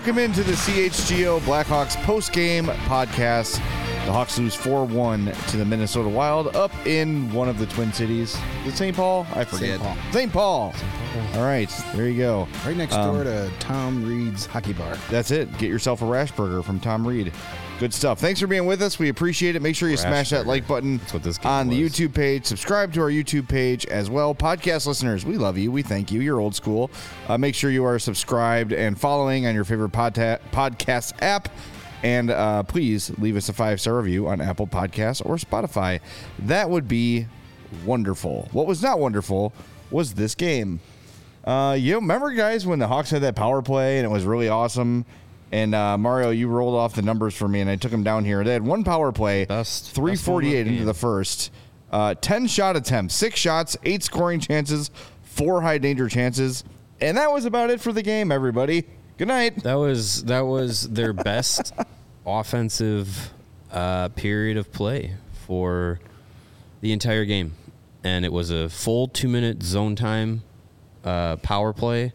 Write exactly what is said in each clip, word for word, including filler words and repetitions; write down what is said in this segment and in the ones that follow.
Welcome into the C H G O Blackhawks post-game podcast. The Hawks lose four one to the Minnesota Wild up in one of the Twin Cities. Is it Saint Paul? I forget. Saint Paul. Saint Paul. All right, there you go. Right next Um, door to Tom Reed's Hockey Bar. That's it. Get yourself a Rash Burger from Tom Reed. Good stuff. Thanks for being with us. We appreciate it. Make sure you Rash smash that Burger. like button That's what this game on the was. YouTube page. Subscribe to our YouTube page as well. Podcast listeners, we love you. We thank you. You're old school. Uh, make sure you are subscribed and following on your favorite podta- podcast app. And uh, please leave us a five-star review on Apple Podcasts or Spotify. That would be wonderful. What was not wonderful was this game. Uh, you remember, guys, when the Hawks had that power play and it was really awesome? And uh, Mario, you rolled off the numbers for me, and I took them down here. They had one power play, Best- three forty-eight best one of the into game. the first, uh, ten shot attempts, six shots, eight scoring chances, four high danger chances, and that was about it for the game. Everybody, good night. That was that was their best offensive uh, period of play for the entire game, and it was a full two minute zone time uh, power play.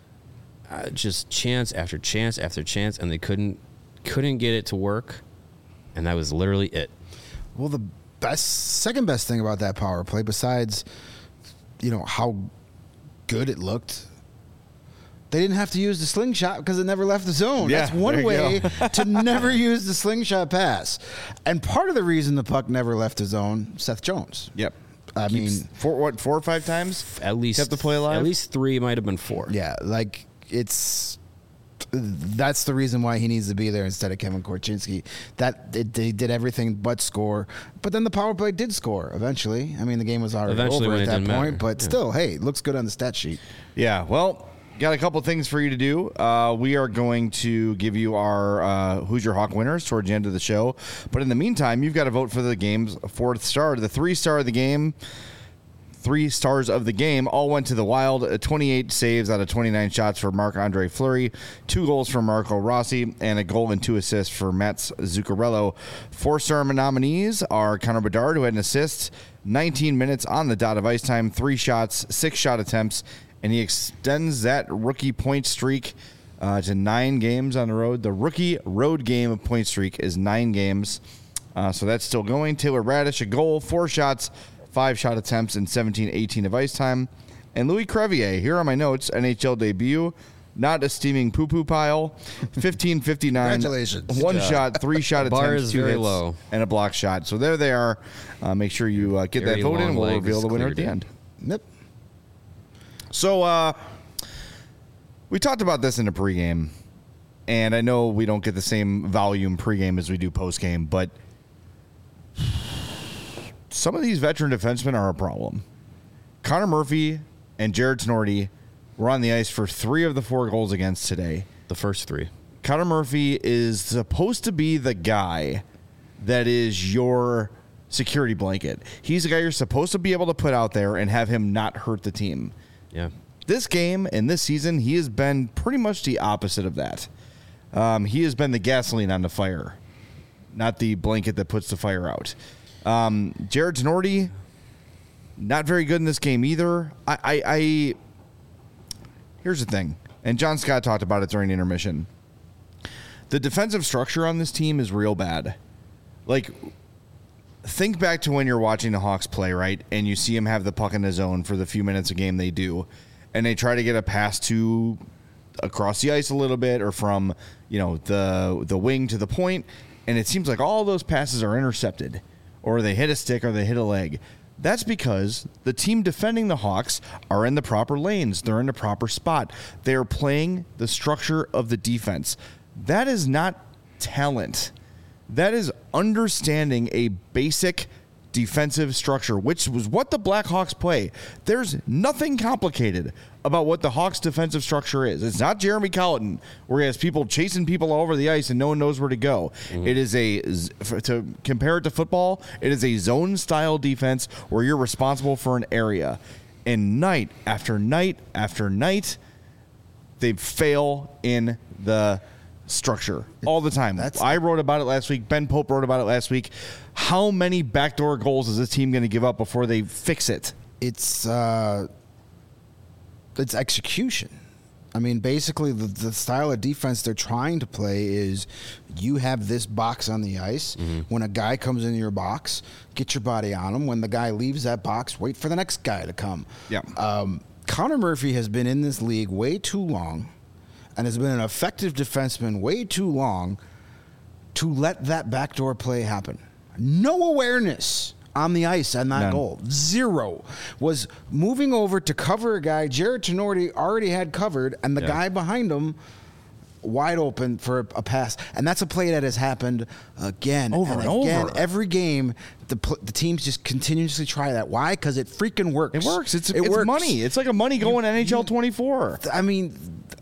Uh, just chance after chance after chance, and they couldn't couldn't get it to work, and that was literally it. Well, the best, second best thing about that power play, besides, you know, how good it looked, they didn't have to use the slingshot because it never left the zone. Yeah, That's one there you way go. to never use the slingshot pass. And part of the reason the puck never left the zone, Seth Jones. Yep. I Keeps mean, four, what, four or five times? At least Kept the play alive? At least three, might have been four. yeah, like it's that's the reason why he needs to be there instead of Kevin Korchinski. That it, they did everything but score, but then the power play did score eventually. I mean, the game was already Eventually over when at it that didn't point, matter. but Yeah. still, hey, it looks good on the stat sheet. Yeah, well, got a couple things for you to do. Uh, we are going to give you our uh, Who's Your Hawk winners towards the end of the show. But in the meantime, you've got to vote for the game's fourth star. The three star of the game, three stars of the game, all went to the Wild. Uh, twenty-eight saves out of twenty-nine shots for Marc-Andre Fleury, two goals for Marco Rossi, and a goal and two assists for Mats Zuccarello. Four-star nominees are Connor Bedard, who had an assist, nineteen minutes on the dot of ice time, three shots, six shot attempts, and he extends that rookie point streak uh, to nine games on the road. The rookie road game of point streak is nine games, uh, so that's still going. Taylor Radish, a goal, four shots, five shot attempts, and seventeen eighteen of ice time. And Louis Crevier, here are my notes, N H L debut, not a steaming poo-poo pile, fifteen fifty-nine. Congratulations. One shot, three shot Bar attempts, is two very hits, low. and a block shot. So there they are. Uh, make sure you uh, get Very that vote in. long We'll legs reveal the winner at the cleared end. Yep. So uh, we talked about this in the pregame, and I know we don't get the same volume pregame as we do postgame, but some of these veteran defensemen are a problem. Connor Murphy and Jared Tenorti were on the ice for three of the four goals against today. The first three. Connor Murphy is supposed to be the guy that is your security blanket. He's the guy you're supposed to be able to put out there and have him not hurt the team. Yeah. This game and this season, he has been pretty much the opposite of that. Um, he has been the gasoline on the fire, not the blanket that puts the fire out. Um, Jared Tenorti, not very good in this game either. I, I, I here's the thing, and John Scott talked about it during intermission. The defensive structure on this team is real bad. Like, think back to when you're watching the Hawks play, right? And you see them have the puck in the zone for the few minutes a game they do. And they try to get a pass to across the ice a little bit or from, you know, the the wing to the point. And it seems like all those passes are intercepted or they hit a stick or they hit a leg. That's because the team defending the Hawks are in the proper lanes. They're in the proper spot. They're playing the structure of the defense. That is not talent. That is understanding a basic defensive structure, which was what the Blackhawks play. There's nothing complicated about what the Hawks' defensive structure is. It's not Jeremy Colleton, where he has people chasing people all over the ice and no one knows where to go. Mm-hmm. It is a, to compare it to football, it is a zone-style defense where you're responsible for an area. And night after night after night, they fail in the structure all the time. That's, I wrote about it last week. Ben Pope wrote about it last week. How many backdoor goals is this team going to give up before they fix it? It's uh, it's execution. I mean, basically, the, the style of defense they're trying to play is you have this box on the ice. Mm-hmm. When a guy comes into your box, get your body on him. When the guy leaves that box, wait for the next guy to come. Yeah. Um, Connor Murphy has been in this league way too long and has been an effective defenseman way too long to let that backdoor play happen. No awareness on the ice on that None. goal. Zero. Was moving over to cover a guy Jared Tenorti already had covered, and the Yeah. guy behind him wide open for a pass. And that's a play that has happened again Over and, and again. over. Every game, the pl- the teams just continuously try that. Why? Because it freaking works. It works. It's, it it's works. money. It's like a money going N H L twenty-four. I mean,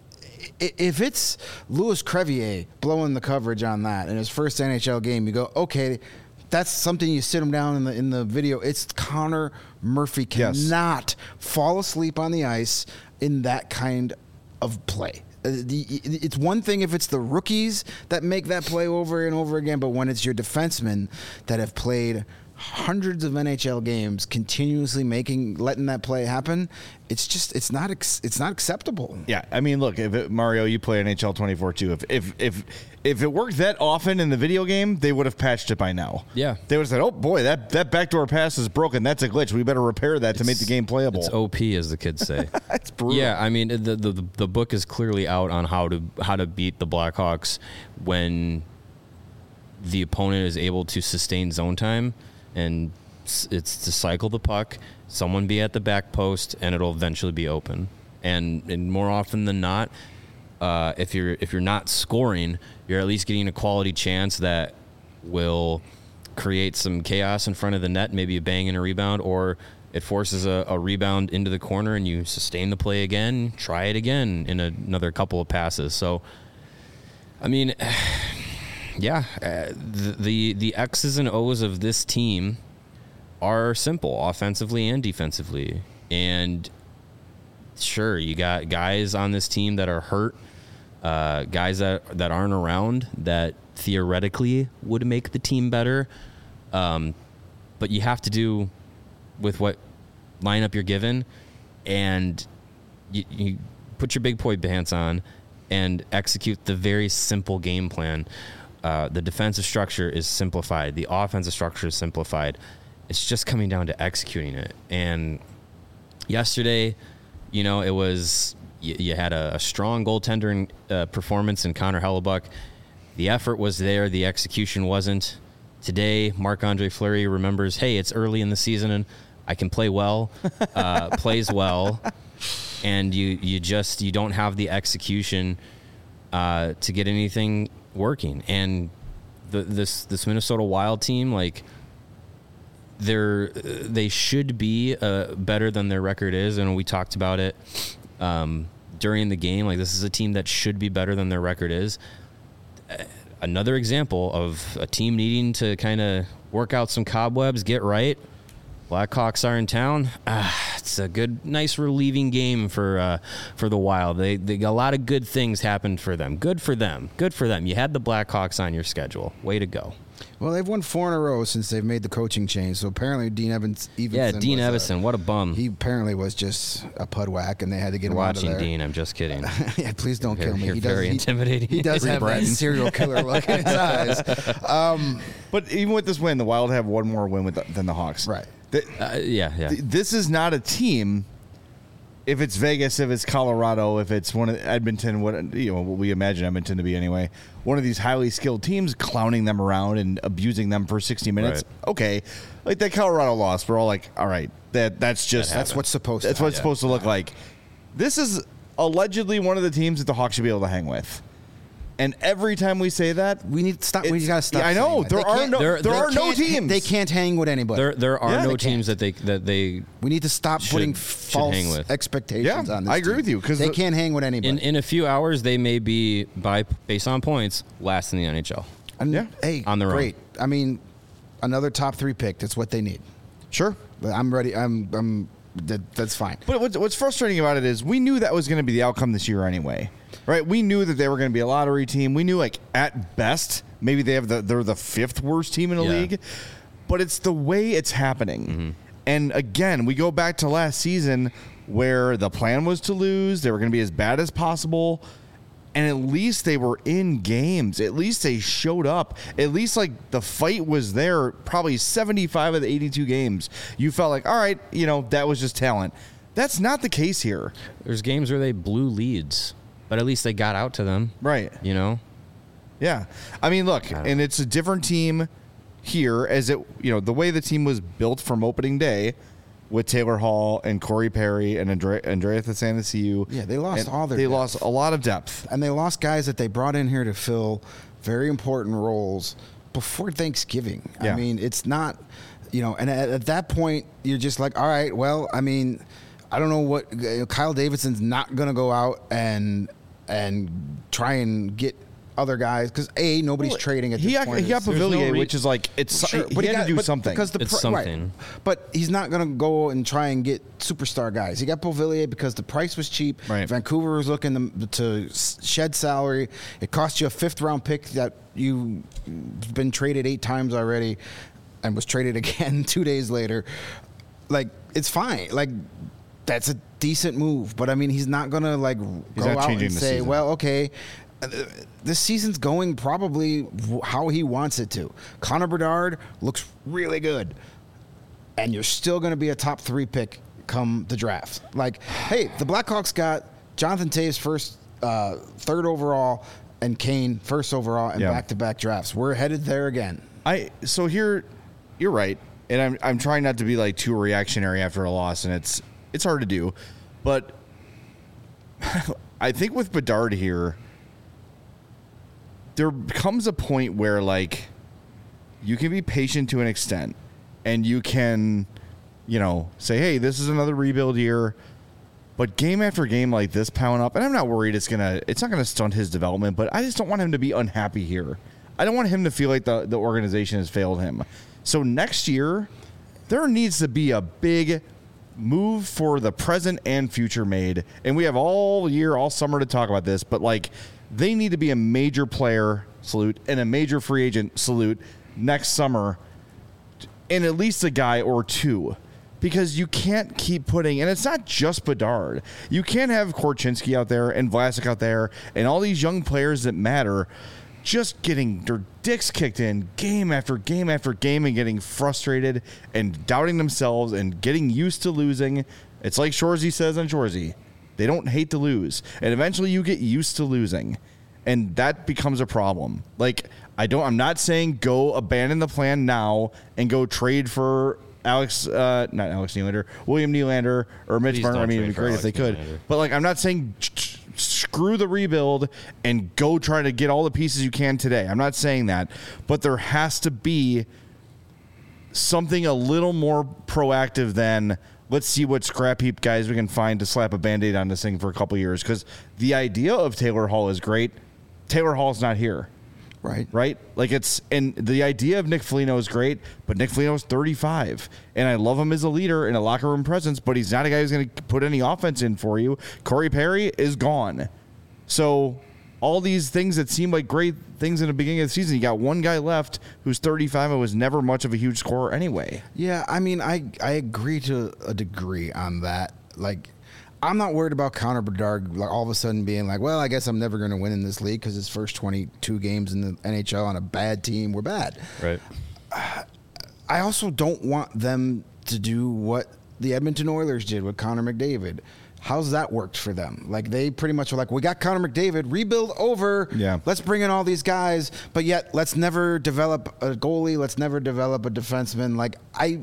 i- if it's Louis Crevier blowing the coverage on that in his first N H L game, you go, okay, that's something you sit him down in the in the video. It's Connor Murphy Yes. cannot fall asleep on the ice in that kind of play. Uh, the, it's one thing if it's the rookies that make that play over and over again, but when it's your defensemen that have played hundreds of N H L games continuously making letting that play happen, it's just it's not ex- it's not acceptable. Yeah, I mean, look, if it, Mario, you play N H L twenty-four too. If if if if it worked that often in the video game, they would have patched it by now. Yeah. They would have said, "Oh boy, that that backdoor pass is broken. That's a glitch. We better repair that to make the game playable." It's O P, as the kids say. It's brutal. Yeah, I mean the, the the book is clearly out on how to how to beat the Blackhawks when the opponent is able to sustain zone time, and s- it's to cycle the puck, someone be at the back post, and it'll eventually be open. And, and more often than not, uh, if you're if you're not scoring, you're at least getting a quality chance that will create some chaos in front of the net, maybe a bang and a rebound, or it forces a, a rebound into the corner and you sustain the play again, try it again in a, another couple of passes. So, I mean, yeah, uh, the, the the X's and O's of this team are simple, offensively and defensively. And sure, you got guys on this team that are hurt, uh, guys that that aren't around that theoretically would make the team better. Um, but you have to do with what lineup you're given, and you, you put your big boy pants on and execute the very simple game plan. Uh, the defensive structure is simplified. The offensive structure is simplified. It's just coming down to executing it. And yesterday, you know, it was you, you had a, a strong goaltender in, uh, performance in Connor Hellebuck. The effort was there. The execution wasn't. Today, Marc-Andre Fleury remembers, hey, it's early in the season and I can play well, uh, plays well, and you you just you don't have the execution uh, to get anything working. And the, this this Minnesota Wild team, like, they're they should be uh, better than their record is, and we talked about it um, during the game. Like, this is a team that should be better than their record is. Another example of a team needing to kind of work out some cobwebs, get right. Blackhawks are in town. Ah, it's a good, nice, relieving game for uh, for the Wild. They they got a lot of good things happened for them. Good for them. Good for them. You had the Blackhawks on your schedule. Way to go. Well, they've won four in a row since they've made the coaching change. So apparently, Dean Evans. Evenson Yeah, Dean was, uh, Evison. What a bum. He apparently was just a pud whack, and they had to get You're him out of watching there. Dean. I'm just kidding. Yeah, please don't You're- kill me. you're he does, very he- intimidating. He does have that Bratton. serial killer look in his eyes. Um, But even with this win, the Wild have one more win with the, than the Hawks. Right. The- Uh, yeah, yeah. th- this is not a team. If it's Vegas, if it's Colorado, if it's one of Edmonton, what you know, what we imagine Edmonton to be anyway, one of these highly skilled teams, clowning them around and abusing them for sixty minutes. Right. Okay, like that Colorado loss, we're all like, all right, that that's just that's what's supposed that's to what it's happen. supposed to look like. This is allegedly one of the teams that the Hawks should be able to hang with. And every time we say that, We need to stop. We It's- got to stop. yeah, I saying know. that. There They are can't- no- there- there there are no can't- teams. They can't hang with anybody. There there are Yeah, no they teams that they that they we need to stop should- putting should false hang with. expectations Yeah, on this I agree team. with you, 'cause they the- can't hang with anybody. in in a few hours they may be by based on points last in the N H L. And, Yeah. Hey, On their own. great. I mean, another top three pick. That's what they need. sure. But I'm ready. I'm. I'm. That, that's fine. But what's, what's frustrating about it is we knew that was going to be the outcome this year anyway, right? We knew that they were going to be a lottery team. We knew, like, at best, maybe they have the they're the fifth worst team in the Yeah. league. But it's the way it's happening. Mm-hmm. And again, we go back to last season where the plan was to lose. They were going to be as bad as possible. And at least they were in games. At least they showed up. At least, like, the fight was there probably seventy-five of the eighty-two games. You felt like, all right, you know, that was just talent. That's not the case here. There's games where they blew leads, but at least they got out to them. Right. You know? Yeah. I mean, look, and it's a different team here as it, you know, the way the team was built from opening day with Taylor Hall and Corey Perry and Andre, Andrea Athanasiou. Yeah, they lost all their They depth. lost a lot of depth. And they lost guys that they brought in here to fill very important roles before Thanksgiving. Yeah. I mean, it's not, you know, and at, at that point, you're just like, all right, well, I mean, I don't know what, you know, Kyle Davidson's not going to go out and and try and get other guys because a nobody's Well, trading at he this got, point. He got There's no Pavilier, re- which is like, it's Sure, he but had got, to do but something. because the It's pri- right. something. But he's not going to go and try and get superstar guys. He got Pavilier because the price was cheap. Right. Vancouver was looking to, to shed salary. It cost you a fifth round pick that you've been traded eight times already, and was traded again two days later. Like, it's fine. Like, that's a decent move. But I mean, he's not going to like He's go not out changing and the say, season. well, okay. Uh, This season's going probably w- how he wants it to. Connor Bedard looks really good, and you're still going to be a top three pick come the draft. Like, hey, the Blackhawks got Jonathan Taves first, uh, third overall, and Kane first overall in Yeah. back-to-back drafts. We're headed there again. I so here, you're right, and I'm I'm trying not to be like too reactionary after a loss, and it's it's hard to do, but I think with Bedard here, there comes a point where like you can be patient to an extent, and you can, you know, say, hey, this is another rebuild year. But game after game like this pound up, and I'm not worried it's gonna it's not gonna stunt his development, but I just don't want him to be unhappy here. I don't want him to feel like the, the organization has failed him. So next year, there needs to be a big move for the present and future made. And we have all year, all summer to talk about this, but like they need to be a major player salute and a major free agent salute next summer, and at least a guy or two. Because you can't keep putting, and it's not just Bedard. You can't have Korchinski out there and Vlasic out there and all these young players that matter just getting their dicks kicked in game after game after game and getting frustrated and doubting themselves and getting used to losing. It's like Shorzy says on Shorzy. They don't hate to lose. And eventually you get used to losing. And that becomes a problem. Like, I don't, I'm not saying go abandon the plan now and go trade for Alex, uh, not Alex Nylander, William Nylander, or Mitch Please Marner. I don't mean, it'd be trade for great if they Alex could. Nylander. But like, I'm not saying ch- ch- screw the rebuild and go try to get all the pieces you can today. I'm not saying that, but there has to be something a little more proactive than let's see what scrap heap guys we can find to slap a Band-Aid on this thing for a couple years. Because the idea of Taylor Hall is great. Taylor Hall's not here. Right. Right? Like it's, and the idea of Nick Foligno is great, but Nick Foligno is thirty-five. And I love him as a leader and a locker room presence, but he's not a guy who's going to put any offense in for you. Corey Perry is gone. So all these things that seem like great things in the beginning of the season, you got one guy left who's thirty-five and was never much of a huge scorer anyway. Yeah, I mean, I I agree to a degree on that. Like, I'm not worried about Connor Bedard like all of a sudden being like, well, I guess I'm never going to win in this league because his first twenty-two games in the N H L on a bad team were bad. Right. I also don't want them to do what the Edmonton Oilers did with Connor McDavid. How's that worked for them? Like, they pretty much were like, we got Connor McDavid, rebuild over. Yeah. Let's bring in all these guys, but yet let's never develop a goalie. Let's never develop a defenseman. Like, I...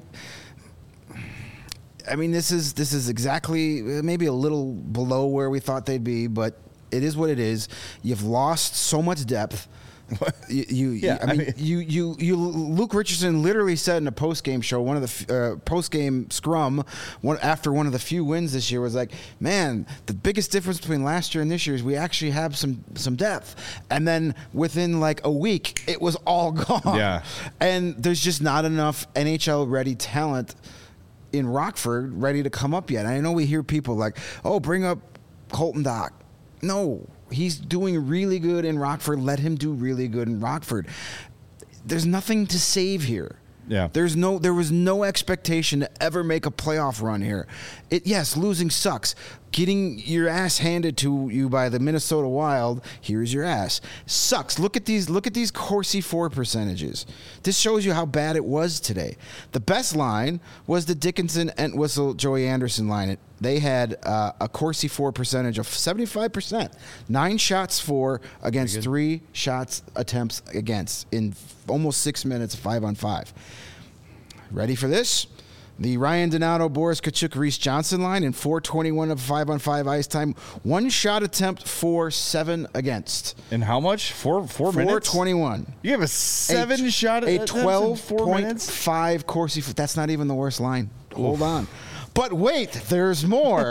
I mean, this is this is exactly maybe a little below where we thought they'd be, but it is what it is. You've lost so much depth. You, you Yeah, I mean, I mean- you, you, you. Luke Richardson literally said in a post game show, one of the uh, post game scrum, one after one of the few wins this year, was like, "Man, the biggest difference between last year and this year is we actually have some some depth." And then within like a week, it was all gone. Yeah. And there's just not enough N H L ready talent in Rockford ready to come up yet. I know we hear people like, oh, bring up Colton Dach. No, he's doing really good in Rockford. Let him do really good in Rockford. There's nothing to save here. Yeah. There's no there was no expectation to ever make a playoff run here. It yes, losing sucks. Getting your ass handed to you by the Minnesota Wild, here's your ass. Sucks. Look at these look at these Corsi four percentages. This shows you how bad it was today. The best line was the Dickinson Entwistle Joey Anderson line. They had uh, a Corsi four percentage of seventy-five percent. Nine shots for against three shots attempts against in almost six minutes, five on five. Ready for this? The Ryan Donato, Boris Kachuk, Reese Johnson line in four twenty-one of five on five ice time. One shot attempt for seven against. And how much? Four four minutes? four twenty-one. You have a seven a, shot a attempt in twelve four point minutes? five Corsi. That's not even the worst line. Hold on. But wait, there's more.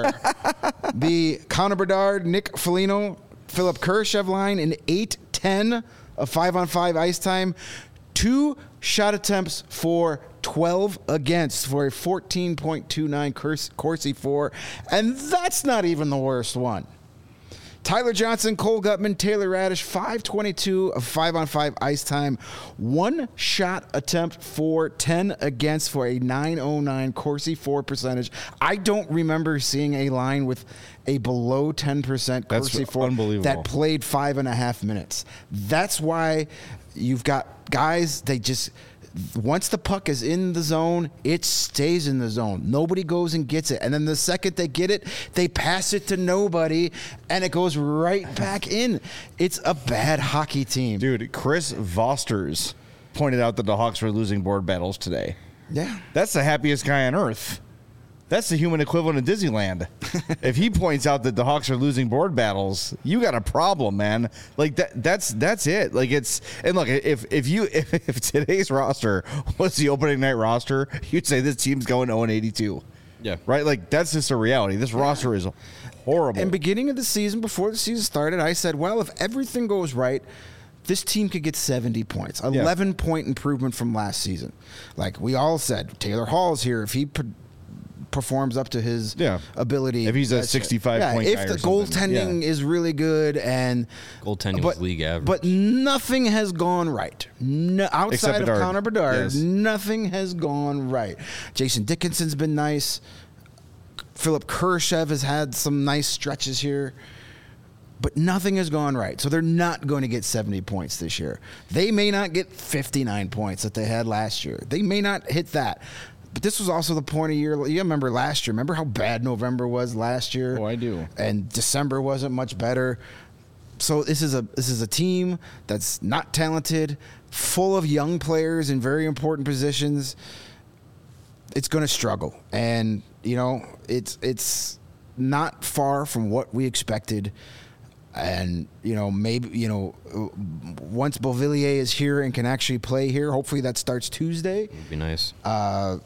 The Connor Bedard, Nick Foligno, Philip Kurashev line in eight ten of five on five ice time. Two shot attempts for twelve against for a fourteen point two nine Corsi four. And that's not even the worst one. Tyler Johnson, Cole Gutman, Taylor Radish, five twenty-two of five on five ice time. One shot attempt for ten against for a nine oh nine Corsi four percentage. I don't remember seeing a line with a below ten percent Corsi That's four unbelievable. that played five and a half minutes. That's why you've got guys, they just... Once the puck is in the zone, it stays in the zone. Nobody goes and gets it. And then the second they get it, they pass it to nobody, and it goes right back in. It's a bad hockey team. Dude, Chris Vosters pointed out that the Hawks were losing board battles today. Yeah. That's the happiest guy on earth. That's the human equivalent of Disneyland. If he points out that the Hawks are losing board battles, you got a problem, man. Like that that's that's it. Like it's and look, if if you if, if today's roster was the opening night roster, you'd say this team's going oh and eighty-two. Yeah. Right? Like that's just a reality. This roster is horrible. And beginning of the season, before the season started, I said, well, if everything goes right, this team could get seventy points, eleven point improvement from last season. Like we all said, Taylor Hall's here. If he pro- performs up to his Yeah. ability, If he's a that's- sixty-five yeah, point if guy or the something. goaltending Yeah. is really good and Goaltending but, was league average. but nothing has gone right. No, outside Except of Bedard. Connor Bedard, Yes. nothing has gone right. Jason Dickinson's been nice. Philip Kurashev has had some nice stretches here. But nothing has gone right. So they're not going to get seventy points this year. They may not get fifty-nine points that they had last year. They may not hit that. But this was also the point of year. You remember last year. Remember how bad November was last year? Oh, I do. And December wasn't much better. So this is a this is a team that's not talented, full of young players in very important positions. It's going to struggle. And, you know, it's it's not far from what we expected. And, you know, maybe, you know, once Beauvillier is here and can actually play here, hopefully that starts Tuesday. It'd be nice. Uh,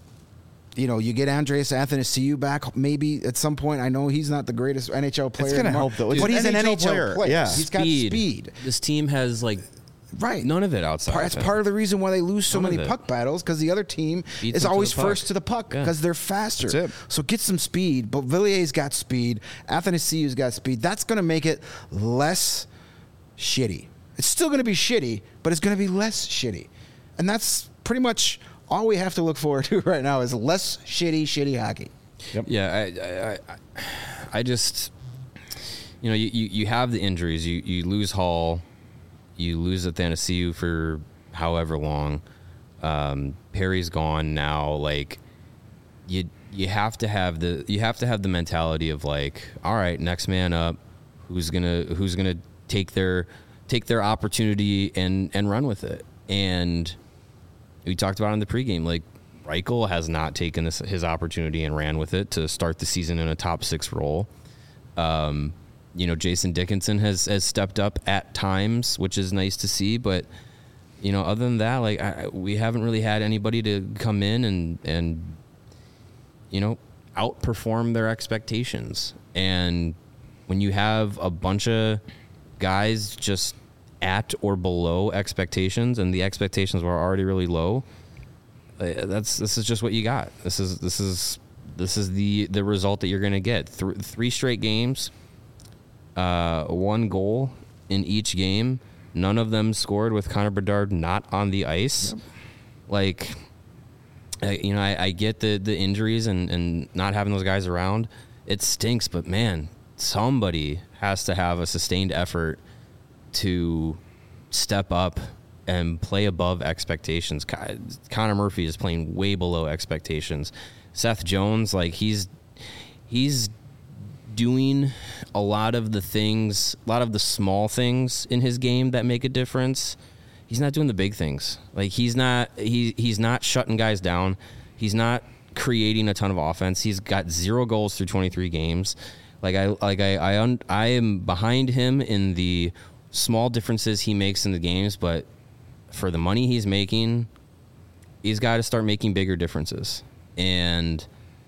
you know, you get Andreas Athanasiou back maybe at some point. I know he's not the greatest N H L player. gonna anymore, help, though. It's But an he's an N H L N H L player. player. Yeah. He's got speed. This team has like Right. none of it outside. Part, of that's it. part of the reason why they lose so None of many it. puck battles, because the other team Beats is them to always the puck. first to the puck Yeah. because they're faster. That's it. So get some speed. But Villier's got speed. Athanasiou's got speed. That's going to make it less shitty. It's still going to be shitty, but it's going to be less shitty. And that's pretty much all we have to look forward to right now is less shitty, shitty hockey. Yep. Yeah, I, I, I, I just, you know, you, you, you have the injuries. You you lose Hall, you lose Athanasiou for however long. Um, Perry's gone now. Like, you you have to have the you have to have the mentality of like, all right, next man up. Who's gonna who's gonna take their take their opportunity and and run with it? And we talked about it in the pregame, like. Reichel has not taken this, his opportunity and ran with it to start the season in a top six role. Um, you know, Jason Dickinson has, has stepped up at times, which is nice to see. But, you know, other than that, like I, we haven't really had anybody to come in and, and, you know, outperform their expectations. And when you have a bunch of guys just at or below expectations and the expectations were already really low, Uh, that's this is just what you got. This is this is this is the the result that you're going to get. Th- three straight games, uh, one goal in each game. None of them scored with Connor Bedard not on the ice. Yep. Like, I, you know, I, I get the, the injuries and, and not having those guys around. It stinks, but man, somebody has to have a sustained effort to step up and play above expectations. Connor Murphy is playing way below expectations. Seth Jones, like he's he's doing a lot of the things, a lot of the small things in his game that make a difference. He's not doing the big things. Like he's not he he's not shutting guys down. He's not creating a ton of offense. He's got zero goals through twenty-three games. Like I like I I, un, I am behind him in the small differences he makes in the games, but for the money he's making, he's got to start making bigger differences. And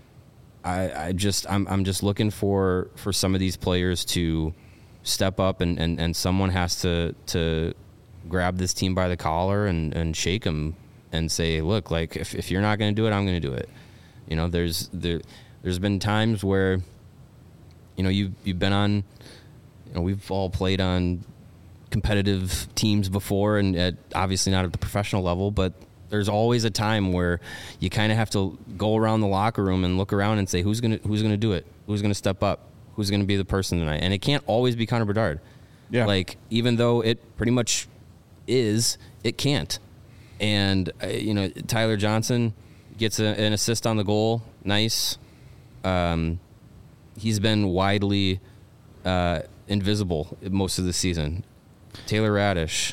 I, I just I'm I'm just looking for, for some of these players to step up, and, and, and someone has to to grab this team by the collar and, and shake them and say, look, like if, if you're not going to do it, I'm going to do it. You know, there's there there's been times where, you know, you you've been on, you know, we've all played on competitive teams before, and at, obviously not at the professional level, but there's always a time where you kind of have to go around the locker room and look around and say, who's gonna who's gonna do it? Who's gonna step up? Who's gonna be the person tonight? And it can't always be Connor Bedard. Yeah. Like even though it pretty much is, it can't. And uh, you know, Tyler Johnson gets a, an assist on the goal. Nice. Um, he's been widely uh, invisible most of the season. Taylor Radish,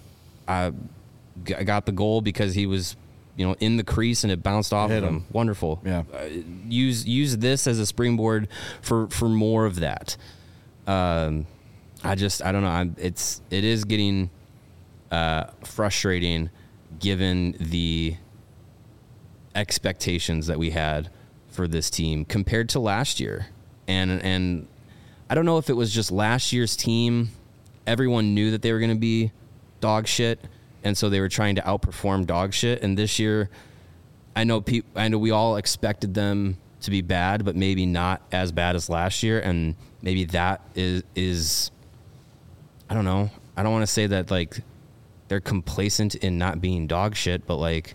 I g- got the goal because he was, you know, in the crease and it bounced off Hit of him. him. Wonderful. Yeah. Uh, use use this as a springboard for, for more of that. Um, I just I don't know. I'm, it's it is getting uh, frustrating given the expectations that we had for this team compared to last year, and and I don't know if it was just last year's team. Everyone knew that they were going to be dog shit, and so they were trying to outperform dog shit. And this year, I know pe- I know we all expected them to be bad, but maybe not as bad as last year. And maybe that is is I don't know. I don't want to say that like they're complacent in not being dog shit, but like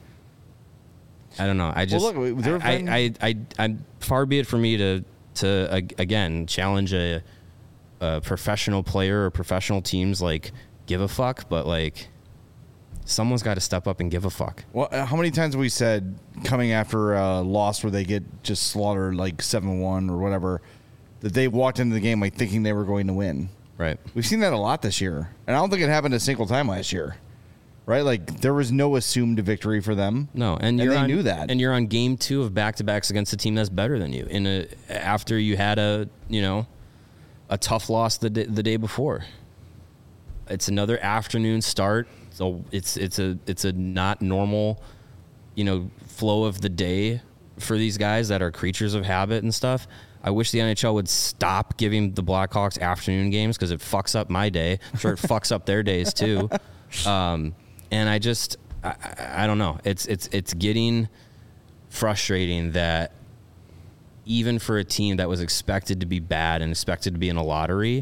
I don't know. I just Well, look, there have I, been- I, I, I, I far be it for me to to uh, again challenge a. a professional player or professional teams like give a fuck, but like someone's got to step up and give a fuck. Well, uh, how many times have we said coming after a loss where they get just slaughtered like seven one or whatever, that they walked into the game like thinking they were going to win? Right. We've seen that a lot this year, and I don't think it happened a single time last year. Right? Like there was no assumed victory for them. No, and, And you're they on, knew that. and you're on game two of back to backs against a team that's better than you in a after you had a you know a tough loss the day, the day before. It's another afternoon start, so it's it's a it's a not normal, you know, flow of the day for these guys that are creatures of habit and stuff. I wish the N H L would stop giving the Blackhawks afternoon games because it fucks up my day. I'm sure it fucks up their days too. Um, and I just I, I, I don't know. It's it's it's getting frustrating that even for a team that was expected to be bad and expected to be in a lottery,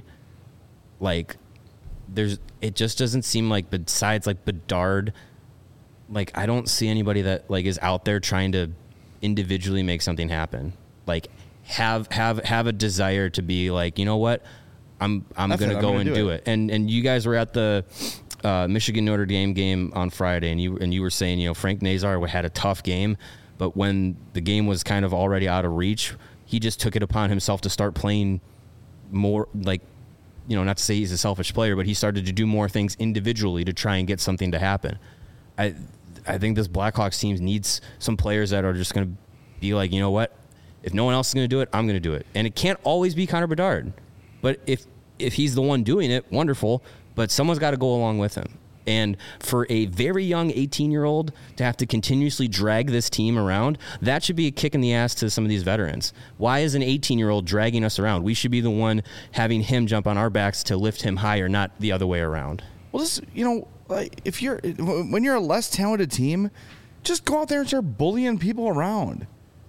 like there's it just doesn't seem like besides like Bedard, like I don't see anybody that like is out there trying to individually make something happen. Like have have have a desire to be like, you know what, I'm I'm That's gonna it, I'm go gonna and do do it. it. And and you guys were at the uh, Michigan Notre Dame game on Friday, and you and you were saying, you know, Frank Nazar had a tough game, but when the game was kind of already out of reach, he just took it upon himself to start playing more like, you know, not to say he's a selfish player, but he started to do more things individually to try and get something to happen. I I think this Blackhawks team needs some players that are just going to be like, you know what, if no one else is going to do it, I'm going to do it. And it can't always be Connor Bedard. But if if he's the one doing it, wonderful. But someone's got to go along with him. And for a very young eighteen-year-old to have to continuously drag this team around, that should be a kick in the ass to some of these veterans. Why is an eighteen-year-old dragging us around? We should be the one having him jump on our backs to lift him higher, not the other way around. Well, this, you know, like if you're when you're a less talented team, just go out there and start bullying people around.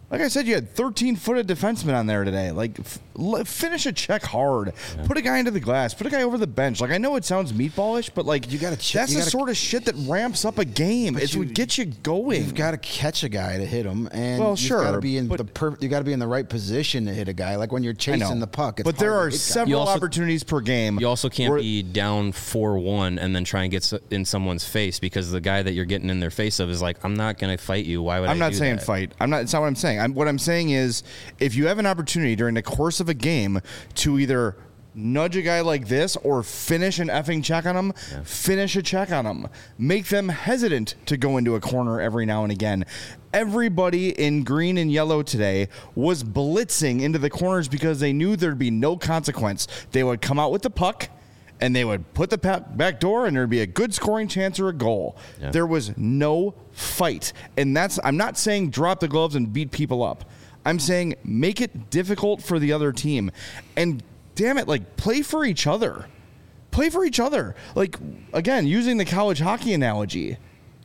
Like I said, you had thirteen-footed defensemen on there today. Like, f- l- finish a check hard. Yeah. Put a guy into the glass. Put a guy over the bench. Like, I know it sounds meatballish, but like, you gotta ch- that's you the gotta, sort of shit that ramps up a game. It would get you going. You've got to catch a guy to hit him, and well, you've sure, got to be in but, the per- you got to be in the right position to hit a guy. Like when you're chasing the puck. It's but there are several also, opportunities per game. You also can't where, be down four one and then try and get in someone's face because the guy that you're getting in their face of is like, I'm not going to fight you. Why would I'm I not do saying that? fight. I'm not. It's not what I'm saying. I'm, what I'm saying is, if you have an opportunity during the course of a game to either nudge a guy like this or finish an effing check on him, yeah. finish a check on him. Make them hesitant to go into a corner every now and again. Everybody in green and yellow today was blitzing into the corners because they knew there'd be no consequence. They would come out with the puck, and they would put the back door, and there'd be a good scoring chance or a goal. Yeah. There was no fight. And that's, I'm not saying drop the gloves and beat people up. I'm saying make it difficult for the other team. And damn it, like, play for each other. Play for each other. Like, again, using the college hockey analogy,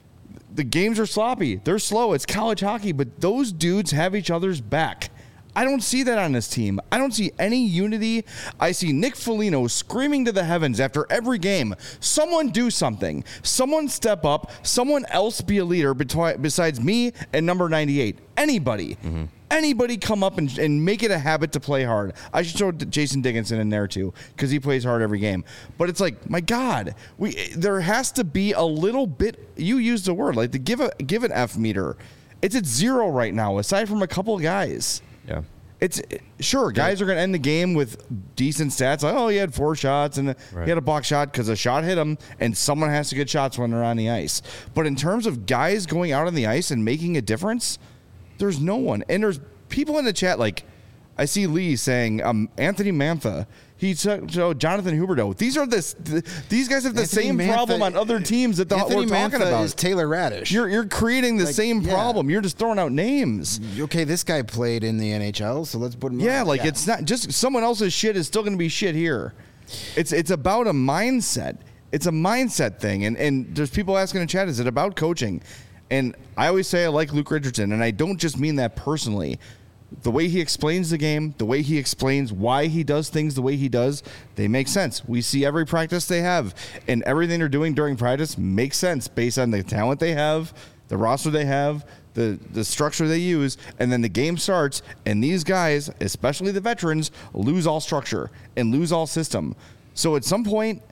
the games are sloppy. They're slow. It's college hockey, but those dudes have each other's back. I don't see that on this team. I don't see any unity. I see Nick Foligno screaming to the heavens after every game, someone do something. Someone step up. Someone else be a leader betwi- besides me and number ninety-eight. Anybody. Mm-hmm. Anybody come up and, and make it a habit to play hard. I should throw Jason Dickinson in there too because he plays hard every game. But it's like, my God, we there has to be a little bit. You used the word like to give a give an F meter. It's at zero right now, aside from a couple of guys. Yeah, it's sure guys yeah. are going to end the game with decent stats. Like, oh, he had four shots and right. he had a block shot because a shot hit him, and someone has to get shots when they're on the ice. But in terms of guys going out on the ice and making a difference, there's no one. And there's people in the chat like I see Lee saying um, Anthony Mantha. He took so Jonathan Huberdeau. These are this. The, these guys have the Anthony same Mantha, problem on other teams that the, Anthony we're talking Mantha about. Is Taylor Radish. You're you're creating the like, same yeah. problem. You're just throwing out names. Okay, this guy played in the N H L, so let's put him. Yeah, on. like yeah. it's not just someone else's shit is still going to be shit here. It's it's about a mindset. It's a mindset thing, and and there's people asking in chat, is it about coaching? And I always say I like Luke Richardson, and I don't just mean that personally. The way he explains the game, the way he explains why he does things the way he does, they make sense. We see every practice they have, and everything they're doing during practice makes sense based on the talent they have, the roster they have, the, the structure they use, and then the game starts, and these guys, especially the veterans, lose all structure and lose all system. So at some point,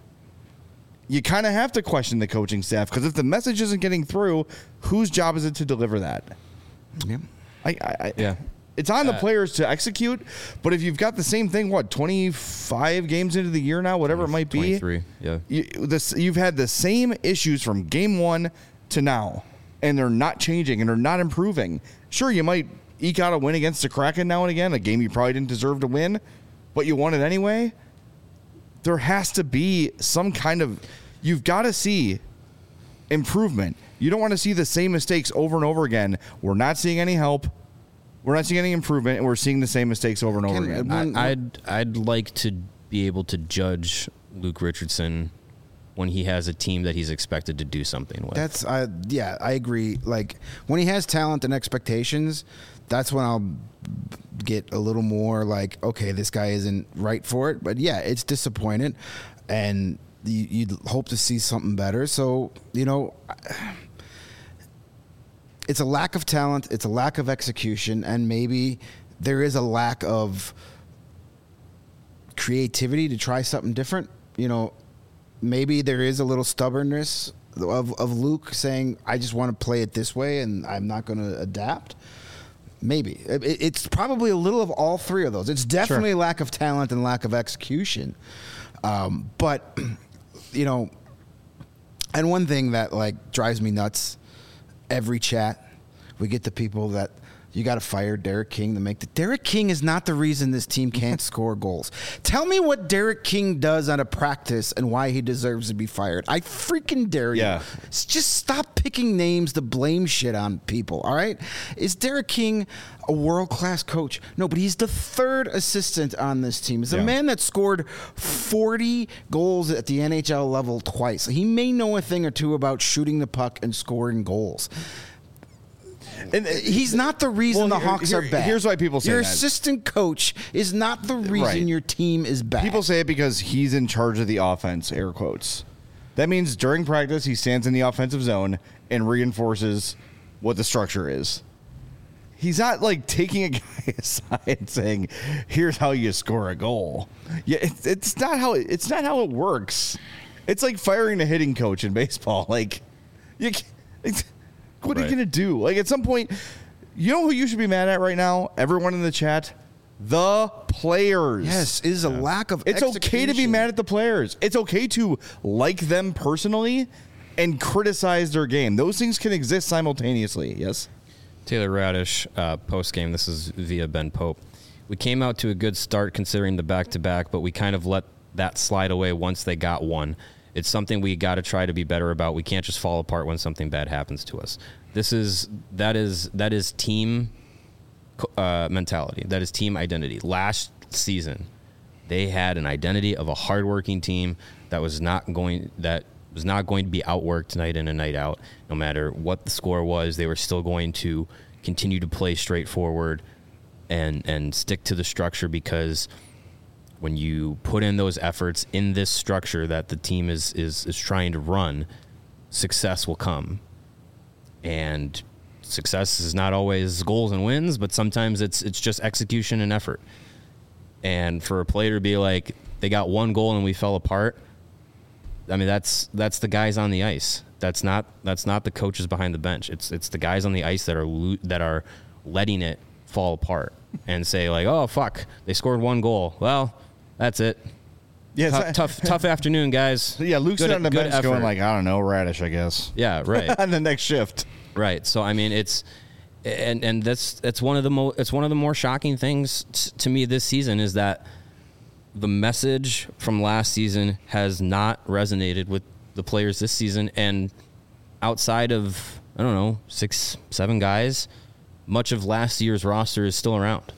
you kind of have to question the coaching staff, because if the message isn't getting through, whose job is it to deliver that? Yeah. I, I, I yeah. It's on the uh, players to execute, but if you've got the same thing, what, twenty-five games into the year now, whatever it might be, twenty-three, yeah. You, this, you've had the same issues from game one to now, and they're not changing and they're not improving. Sure, you might eke out a win against the Kraken now and again, a game you probably didn't deserve to win, but you won it anyway. There has to be some kind of, you've got to see improvement. You don't want to see the same mistakes over and over again. We're not seeing any help. We're not seeing any improvement, and we're seeing the same mistakes over and over Can, again. I, I'd I'd like to be able to judge Luke Richardson when he has a team that he's expected to do something with. That's uh, yeah, I agree. Like when he has talent and expectations, that's when I'll get a little more like, okay, this guy isn't right for it. But yeah, it's disappointing, and you, you'd hope to see something better. So you know. It's a lack of talent, it's a lack of execution, and maybe there is a lack of creativity to try something different. You know, maybe there is a little stubbornness of, of Luke saying, I just want to play it this way and I'm not going to adapt. Maybe. It, it's probably a little of all three of those. It's definitely Sure. lack of talent and lack of execution. Um, but, you know, and one thing that, like, drives me nuts, every chat, we get the people that you got to fire Derek King to make the. Derek King is not the reason this team can't score goals. Tell me what Derek King does on a practice and why he deserves to be fired. I freaking dare you. Yeah. Just stop picking names to blame shit on people, all right? Is Derek King a world-class coach? No, but he's the third assistant on this team. He's a Yeah. man that scored forty goals at the N H L level twice. He may know a thing or two about shooting the puck and scoring goals. And uh, He's not the reason well, the Hawks here, are bad. Here's why people say your that. assistant coach is not the reason Right. your team is bad. People say it because he's in charge of the offense, air quotes. That means during practice, he stands in the offensive zone and reinforces what the structure is. He's not like taking a guy aside and saying, "Here's how you score a goal." Yeah, it's, it's not how it, it's not how it works. It's like firing a hitting coach in baseball. Like, you, can't- it's, what are you Right. gonna do? Like at some point, you know who you should be mad at right now? Everyone in the chat, the players. yes, is a lack of. It's okay to be execution. mad at the players. It's okay to like them personally and criticize their game. Those things can exist simultaneously. Yes. Taylor Radish, uh, post game. This is via Ben Pope. We came out to a good start considering the back to back, but we kind of let that slide away once they got one. It's something we got to try to be better about. We can't just fall apart when something bad happens to us. This is that is that is team uh, mentality. That is team identity. Last season, they had an identity of a hardworking team that was not going that was not going to be outworked night in and night out. No matter what the score was, they were still going to continue to play straightforward and and stick to the structure, because when you put in those efforts in this structure that the team is is is trying to run, success will come. And success is not always goals and wins, but sometimes it's it's just execution and effort. And for a player to be like, they got one goal and we fell apart, I mean, that's that's the guys on the ice. That's not that's not the coaches behind the bench. It's it's the guys on the ice that are lo- that are letting it fall apart and say like, oh fuck, they scored one goal. Well, that's it. Yeah. tough, tough, tough afternoon, guys. Yeah. Luke's Good- on the good bench going effort. like, I don't know, Radish, I guess. Yeah, right. On the next shift. Right. So I mean, it's and and that's that's one of the mo- it's one of the more shocking things t- to me this season is that the message from last season has not resonated with the players this season, and outside of I don't know six seven guys, much of last year's roster is still around,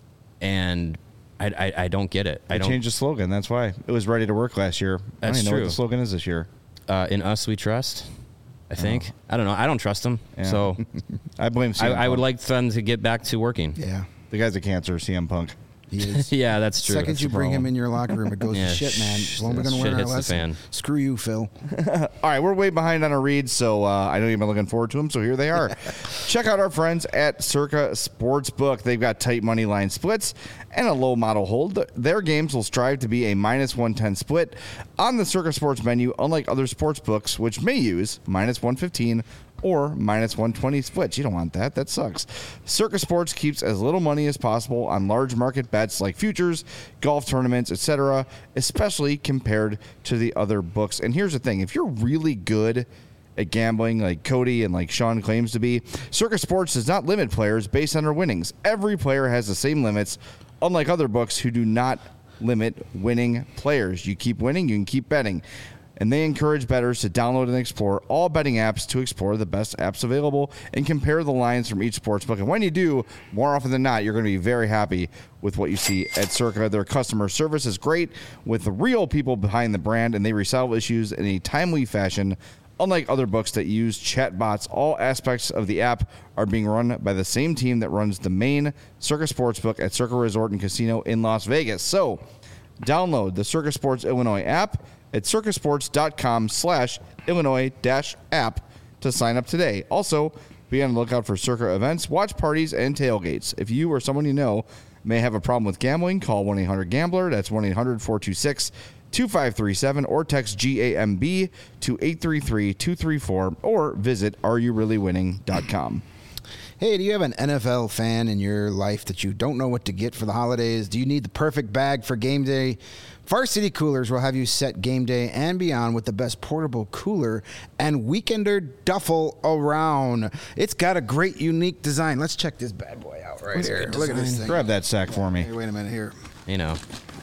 and I I, I don't get it. They I don't. changed the slogan. That's why it was ready to work last year. I That's don't even know true. what the slogan is this year. Uh, in us we trust. I think I don't know. I don't trust them. Yeah. So I blame C I, M I would Punk. like them to get back to working. Yeah, The guy's a cancer, C M Punk. he is. Yeah, that's true. Second That's you the bring him problem. in your locker room, it goes Yeah, to shit, man. sh- As long as we're that gonna shit learn our hits the lesson. fan. Screw you, Phil. All right, we're way behind on our reads, so uh, I know you've been looking forward to them, so here they are. Check out our friends at Circa Sportsbook. They've got tight money line splits and a low model hold. Their games will strive to be a minus one ten split on the Circa Sports menu, unlike other sports books, which may use minus one fifteen or minus one twenty splits. You don't want that. That sucks. Circa Sports keeps as little money as possible on large market bets like futures, golf tournaments, et cetera, especially compared to the other books. And here's the thing. If you're really good at gambling like Cody and like Sean claims to be, Circa Sports does not limit players based on their winnings. Every player has the same limits, unlike other books who do not limit winning players. You keep winning, you can keep betting. And they encourage bettors to download and explore all betting apps to explore the best apps available and compare the lines from each sportsbook. And when you do, more often than not, you're going to be very happy with what you see at Circa. Their customer service is great with the real people behind the brand, and they resolve issues in a timely fashion. Unlike other books that use chatbots, all aspects of the app are being run by the same team that runs the main Circa Sportsbook at Circa Resort and Casino in Las Vegas. So download the Circa Sports Illinois app at circasports.com slash Illinois dash app to sign up today. Also, be on the lookout for Circa events, watch parties, and tailgates. If you or someone you know may have a problem with gambling, call one eight hundred gambler. That's one eight hundred four two six two five three seven or text G A M B to eight three three two three four or visit are you really winning dot com. Hey, do you have an N F L fan in your life that you don't know what to get for the holidays? Do you need the perfect bag for game day? Varsity Coolers will have you set game day and beyond with the best portable cooler and weekender duffel around. It's got a great, unique design. Let's check this bad boy out right It's a here. good Look at this design. thing. Grab that sack for me. Hey, wait a minute here. You know,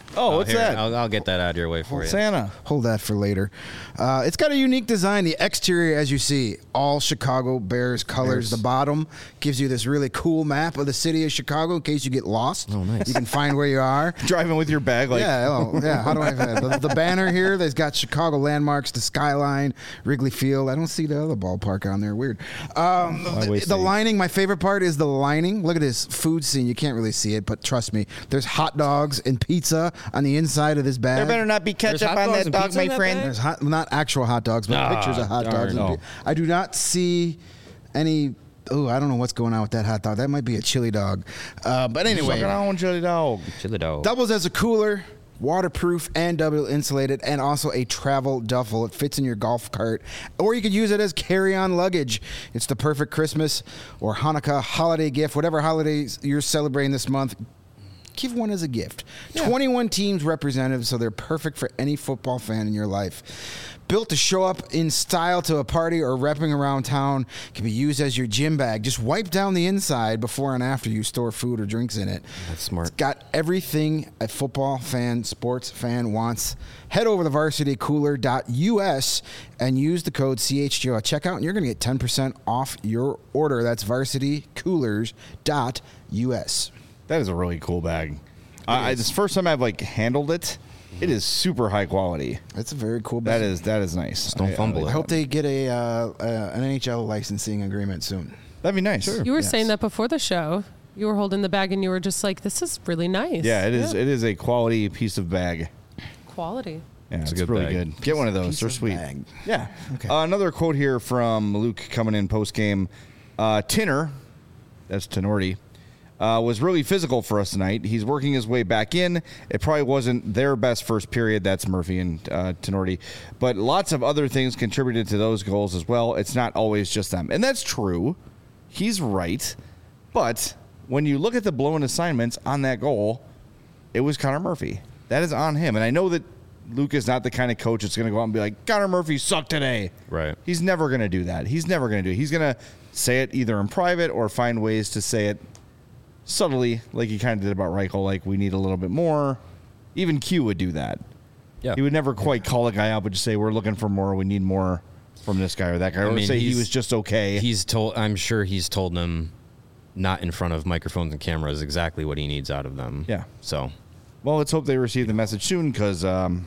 Oh, what's here, that? I'll, I'll get that out of your way for you. Santa. Hold that for later. Uh, it's got a unique design. The exterior, as you see, all Chicago Bears colors. Bears. The bottom gives you this really cool map of the city of Chicago in case you get lost. Oh, nice. You can find where you are. Driving with your bag, like yeah, oh, yeah. How do I? The, the banner here, there's got Chicago landmarks, the skyline, Wrigley Field. I don't see the other ballpark on there. Weird. Um, Why the, waste the it? lining. My favorite part is the lining. Look at this food scene. You can't really see it, but trust me, there's hot dogs and pizza on the inside of this bag. there better not be There's ketchup hot on dogs that and dog, pizza in my that friend. bag? There's hot, not actual hot dogs, but Ah, pictures of hot darn. dogs. and No. pi- I do not see any. Oh, I don't know what's going on with that hot dog. That might be a chili dog. Uh, but anyway, Sucking on chili dog. Chili dog. doubles as a cooler, waterproof and double insulated, and also a travel duffel. It fits in your golf cart, or you could use it as carry-on luggage. It's the perfect Christmas or Hanukkah holiday gift, whatever holidays you're celebrating this month. Give one as a gift. twenty-one teams represented, so they're perfect for any football fan in your life. Built to show up in style to a party or repping around town, can be used as your gym bag. Just wipe down the inside before and after you store food or drinks in it. That's smart. It's got everything a football fan, sports fan wants. Head over to varsity cooler dot U S and use the code C H G O at checkout, and you're going to get ten percent off your order. That's varsity coolers dot U S. That is a really cool bag. I, I, this first time I've like handled it. It is super high quality. That's a very cool bag. That is that is nice. Just don't I- fumble I, it. I hope they get a uh, uh, an N H L licensing agreement soon. That'd be nice. You were Yes. saying that before the show. You were holding the bag and you were just like, "This is really nice." Yeah, it is. It is a quality piece of bag. Quality. Yeah, it's, a good really bag. good. Get one of those. Piece They're of sweet. bag. Yeah. Okay. Uh, another quote here from Luke coming in post game. Uh, Tinner, that's Tenorti, uh, was really physical for us tonight. He's working his way back in. It probably wasn't their best first period. That's Murphy and uh, Tenorti. But lots of other things contributed to those goals as well. It's not always just them. And that's true. He's right. But when you look at the blown assignments on that goal, it was Connor Murphy. That is on him. And I know that Luke is not the kind of coach that's going to go out and be like, Connor Murphy sucked today. Right. He's never going to do that. He's never going to do it. He's going to say it either in private or find ways to say it subtly, like he kind of did about Reichel, like we need a little bit more. Even Q would do that. Yeah. He would never quite call a guy out, but just say, we're looking for more. We need more from this guy or that guy. Or I mean, say he he's- was just okay. He's told. I'm sure he's told them, not in front of microphones and cameras, exactly what he needs out of them. Yeah. So, Well, let's hope they receive the message soon because um,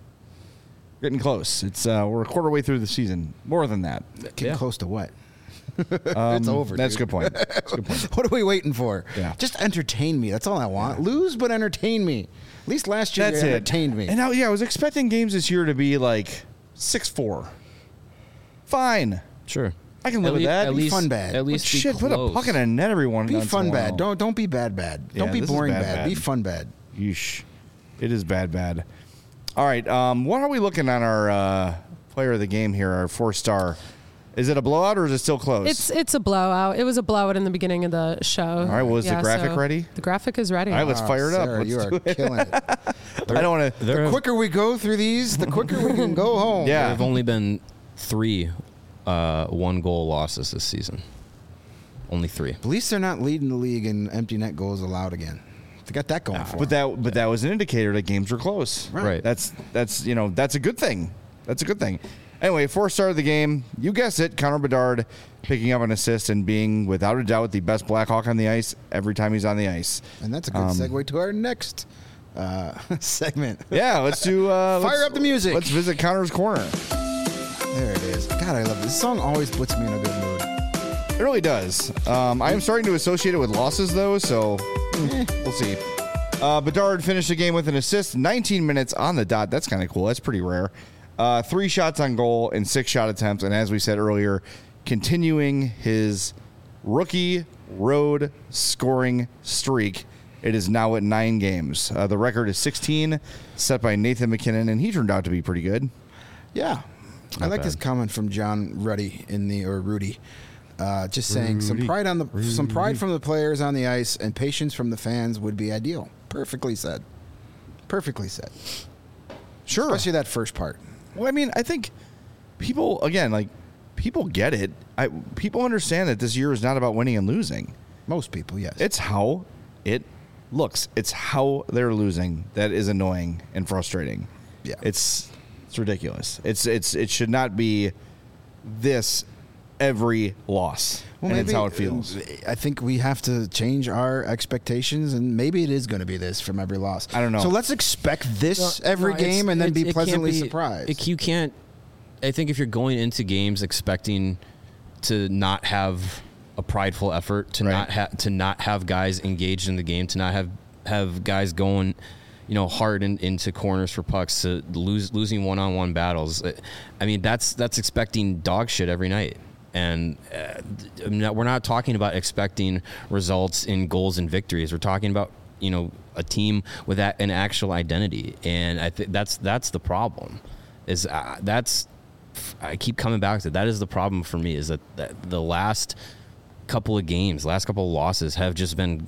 we're getting close. It's uh, we're a quarter way through the season. More than that. Getting Yeah. close to what? Um, It's over, That's a dude. good point. That's a good point. What are we waiting for? Yeah. Just entertain me. That's all I want. Lose, but entertain me. At least last year That's you it. entertained me. And now, yeah, I was expecting games this year to be like six four. Fine. sure. I can live At with lea- that. At Be least fun bad. At But least be Shit, put a close. puck in a net every one. Be once in fun a bad. while. Don't don't be bad bad. Yeah, Don't be this is boring bad bad. bad. Be fun bad. Yeesh. It is bad, bad. All right. Um, what are we looking on our uh, player of the game here, our four star? Is it a blowout or is it still close? It's it's a blowout. It was a blowout in the beginning of the show. All right, was the graphic ready? The graphic is ready. All right, let's Oh, fire it up. Sarah, Let's you do are it. killing it. I don't want to. There The have, quicker we go through these, the quicker we can go home. Yeah. there have only been three uh, one goal losses this season. Only three. At least they're not leading the league in empty net goals allowed again. They got that going for But them. that but that was an indicator that games were close. Right. That's that's you know that's a good thing. That's a good thing. Anyway, four star of the game. You guessed it. Connor Bedard picking up an assist and being without a doubt the best Blackhawk on the ice every time he's on the ice. And that's a good Um, segue to our next uh, segment. Yeah, let's do. Uh, Fire let's- up the music. Let's visit Connor's corner. There it is. God, I love it. This song always puts me in a good mood. It really does. Um, I am starting to associate it with losses, though, so eh, we'll see. Uh, Bedard finished the game with an assist, nineteen minutes on the dot. That's kind of cool. That's pretty rare. Uh, three shots on goal and six shot attempts. And as we said earlier, continuing his rookie road scoring streak. It is now at nine games. Uh, the record is sixteen, set by Nathan McKinnon, and he turned out to be pretty good. Yeah. I Not like bad. this comment from John Ruddy in the or Rudy. Uh, just saying some Rudy. pride on the some pride from the players on the ice and patience from the fans would be ideal. Perfectly said. Perfectly said. Sure. Especially that first part. Well, I mean, I think people, again, like, people get it. I, people understand that this year is not about winning and losing. Most people, yes. It's how it looks. It's how they're losing that is annoying and frustrating. Yeah. It's it's ridiculous. It's it's it should not be this every loss. Well, and maybe it's how it feels. I think we have to change our expectations, and maybe it is going to be this from every loss. I don't know. So let's expect this No, every no, it's- game and then it- be it can't pleasantly be- surprised. it- you can't. I think if you're going into games expecting to not have a prideful effort, to Right. not have to not have guys engaged in the game, to not have have guys going, you know, hard in, into corners for pucks, to lose losing one on one battles. I mean, that's that's expecting dog shit every night. And uh, I'm not- we're not talking about expecting results in goals and victories. We're talking about, you know, a team with that, an actual identity, and I think that's that's the problem. Is uh, that's I keep coming back to that is the problem for me. Is that, that the last couple of games, last couple of losses have just been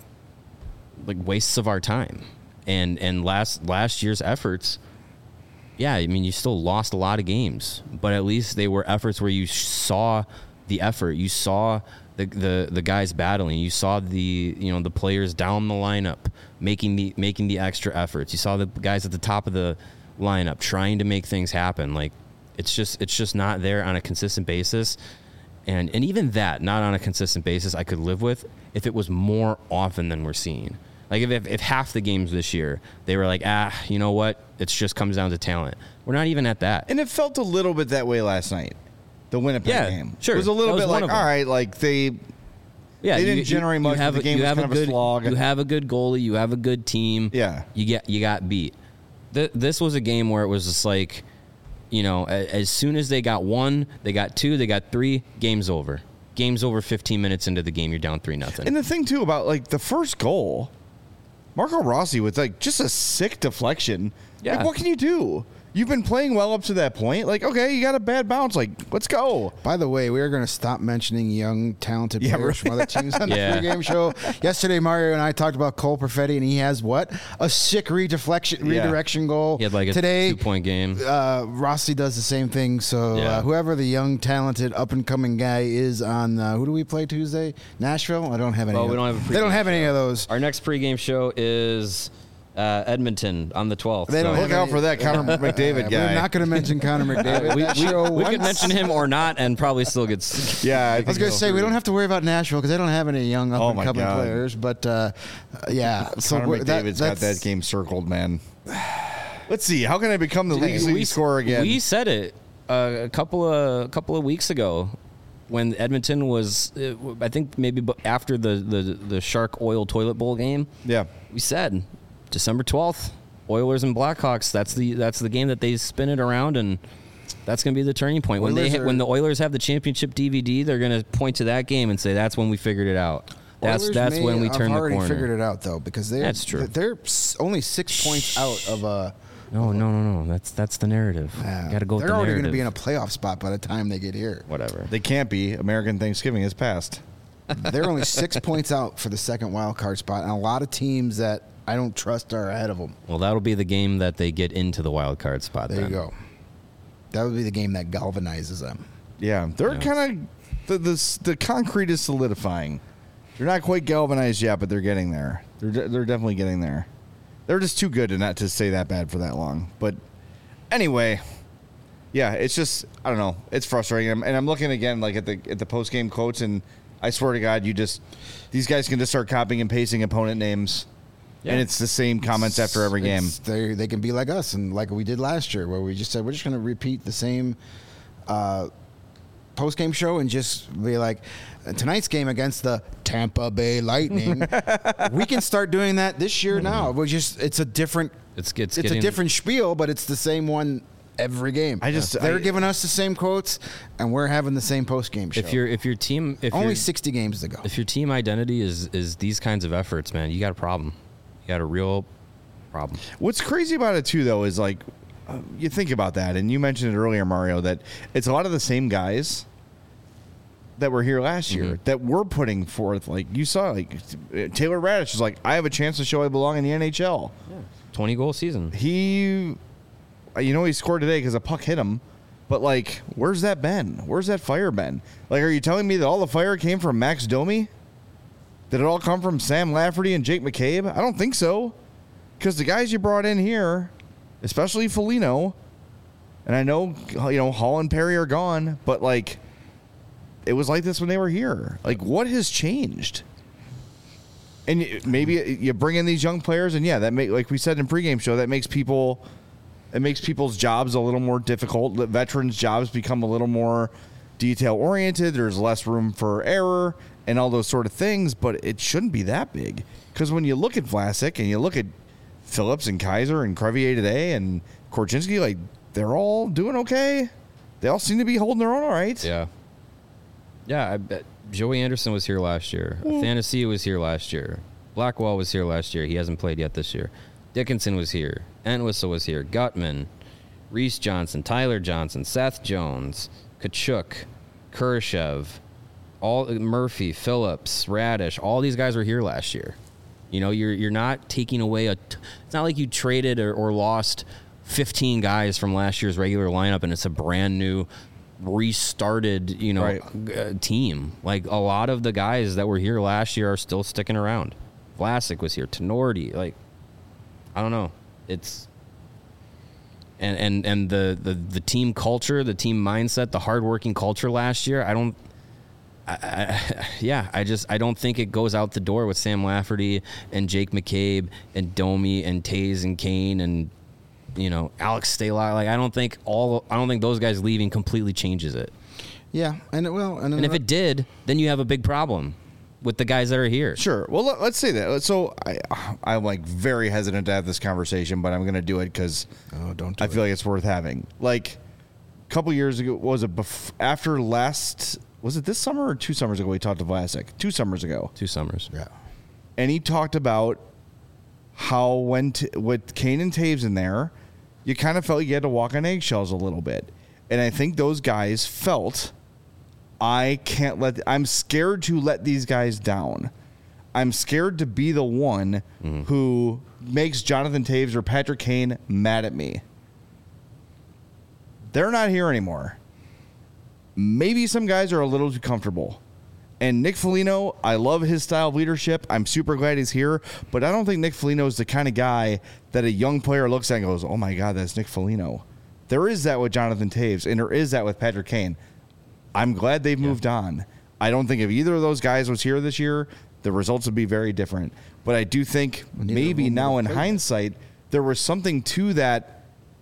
like wastes of our time, and and last last year's efforts. Yeah, I mean, you still lost a lot of games, but at least they were efforts where you saw the effort, you saw the, the the guys battling, you saw the you know the players down the lineup making the making the extra efforts. You saw the guys at the top of the lineup trying to make things happen. Like it's just it's just not there on a consistent basis, and and even that not on a consistent basis I could live with if it was more often than we're seeing. Like if, if if half the games this year they were like, ah, you know what, it just comes down to talent. We're not even at that. And it felt a little bit that way last night. The Winnipeg Yeah, game. sure. It was a little That was bit one like, of all them. right, like they Yeah, They didn't generate much, have but the a- game you was have kind a of a good, slog. You have a good goalie. You have a good team. Yeah. you get you got beat. Th- this was a game where it was just like, you know, a- as soon as they got one, they got two, they got three. Game's over. Game's over. Fifteen minutes into the game, you're down three nothing. And the thing too about like the first goal, Marco Rossi with like just a sick deflection. Yeah. Like, what can you do? You've been playing well up to that point. Like, okay, you got a bad bounce. Like, let's go. By the way, we are going to stop mentioning young, talented Yeah, players right. from other teams on Yeah. the pregame show. Yesterday, Mario and I talked about Cole Perfetti, and he has what? A sick redeflection, Yeah. redirection goal. he had like a Today, two-point game. uh, Rossi does the same thing. So Yeah. uh, whoever the young, talented, up-and-coming guy is on, uh, who do we play Tuesday? Nashville? I don't have any. Oh, of we don't have a They don't pregame have any show. of those. Our next pregame show is uh, Edmonton on the twelfth. They don't Look have out any- for that Connor McDavid Uh, guy. We're not going to mention Connor McDavid. we, That we, show we could once- mention him or not, and probably still gets. yeah, I, I was going to say we don't have to worry about Nashville because they don't have any young up Oh and my coming God. players. But uh, uh, yeah, so Connor we're- that- McDavid's got that's- that game circled, man. Let's see. How can I become the league's leading scorer again? We said it uh, a couple of a couple of weeks ago when Edmonton was, uh, I think maybe bu- after the, the the Shark Oil Toilet Bowl game. yeah. We said December twelfth, Oilers and Blackhawks. That's the that's the game that they spin it around, and that's going to be the turning point. When they Oilers hit, are- when the Oilers have the championship D V D, they're going to point to that game and say that's when we figured it out. That's Oilers that's may when we have turn the already corner. figured it out though because they're That's true. They're s- only six points out of a. No, no, no, no. That's that's the narrative. Uh, Got to go. With they're the already narrative. to be in a playoff spot by the time they get here. whatever. They can't be. American Thanksgiving is past. They're only six points out for the second wild card spot, and a lot of teams that I don't trust are ahead of them. Well, that'll be the game that they get into the wild card spot. There then. you go. That would be the game that galvanizes them. Yeah, they're Yeah. kind of the, the the concrete is solidifying. They're not quite galvanized yet, but they're getting there. They're de- they're definitely getting there. They're just too good to not to stay that bad for that long. But anyway, yeah, it's just I don't know. It's frustrating, and I'm, and I'm looking again like at the at the post game quotes, and I swear to God, you just these guys can just start copying and pasting opponent names, Yeah. and it's the same comments after every game. It's- They they can be like us and like we did last year, where we just said we're just going to repeat the same uh, post game show and just be like tonight's game against the Tampa Bay Lightning. We can start doing that this year now. We just it's a different It's it's, it's getting, a different spiel, but it's the same one every game. I just- they're I- giving us the same quotes, and we're having the same post game show. If your if your team if only your, sixty games to go. if your team identity is is these kinds of efforts, man, you got a problem. You got a real problem. What's crazy about it too, though, is like uh, you think about that, and you mentioned it earlier, Mario, that it's a lot of the same guys that were here last year Mhm. that were putting forth. Like you saw, like Taylor Radish is like, I have a chance to show I belong in the N H L. Twenty goal season. He, you know, he scored today because a puck hit him. But like, where's that been? Where's that fire been? Like, are you telling me that all the fire came from Max Domi? Did it all come from Sam Lafferty and Jake McCabe? I don't think so. Because the guys you brought in here, especially Foligno, and I know, you know, Hall and Perry are gone, but, like, it was like this when they were here. Like, what has changed? And maybe you bring in these young players, and, yeah, that make, like we said in pregame show, that makes people – it makes people's jobs a little more difficult. Veterans' jobs become a little more detail-oriented. There's less room for error and all those sort of things, but it shouldn't be that big. Because when you look at Vlasic and you look at Phillips and Kaiser and Crevier today and Korchinski, like, they're all doing okay. They all seem to be holding their own all right. Yeah. Yeah, I bet Joey Anderson was here last year. Mm. Athanasia was here last year. Blackwell was here last year. He hasn't played yet this year. Dickinson was here. Entwistle was here. Gutman, Reese Johnson, Tyler Johnson, Seth Jones, Kachuk, Kurashev, all Murphy, Phillips, Radish, all these guys were here last year. You know, you're you're not taking away a. T- it's not like you traded or, or lost fifteen guys from last year's regular lineup, and it's a brand new, restarted, you know, right. uh, team. Like, a lot of the guys that were here last year are still sticking around. Vlasic was here. Tenorti, like, I don't know. It's and and and the the the team culture, the team mindset, the hardworking culture last year. I don't. I, I, yeah, I just I don't think it goes out the door with Sam Lafferty and Jake McCabe and Domi and Taze and Kane and, you know, Alex Stalock. Like, I don't think all I don't think those guys leaving completely changes it. Yeah, and it will. And, And if it did, then you have a big problem with the guys that are here. Sure. Well, let, let's say that. So I, I'm like very hesitant to have this conversation, but I'm going to do it because oh, don't do I feel it. like it's worth having. Like a couple years ago, was it bef- after last? Was it this summer or two summers ago? We talked to Vlasic. Two summers ago. Two summers. Yeah. And he talked about how when t- with Kane and Taves in there, you kind of felt you had to walk on eggshells a little bit. And I think those guys felt, I can't let, I'm scared to let these guys down. I'm scared to be the one mm. who makes Jonathan Taves or Patrick Kane mad at me. They're not here anymore. Maybe some guys are a little too comfortable. And Nick Foligno, I love his style of leadership. I'm super glad he's here. But I don't think Nick Foligno is the kind of guy that a young player looks at and goes, oh, my God, that's Nick Foligno. There is that with Jonathan Taves, and there is that with Patrick Kane. I'm glad they've moved yeah. on. I don't think if either of those guys was here this year, the results would be very different. But I do think maybe now in hindsight, there was something to that.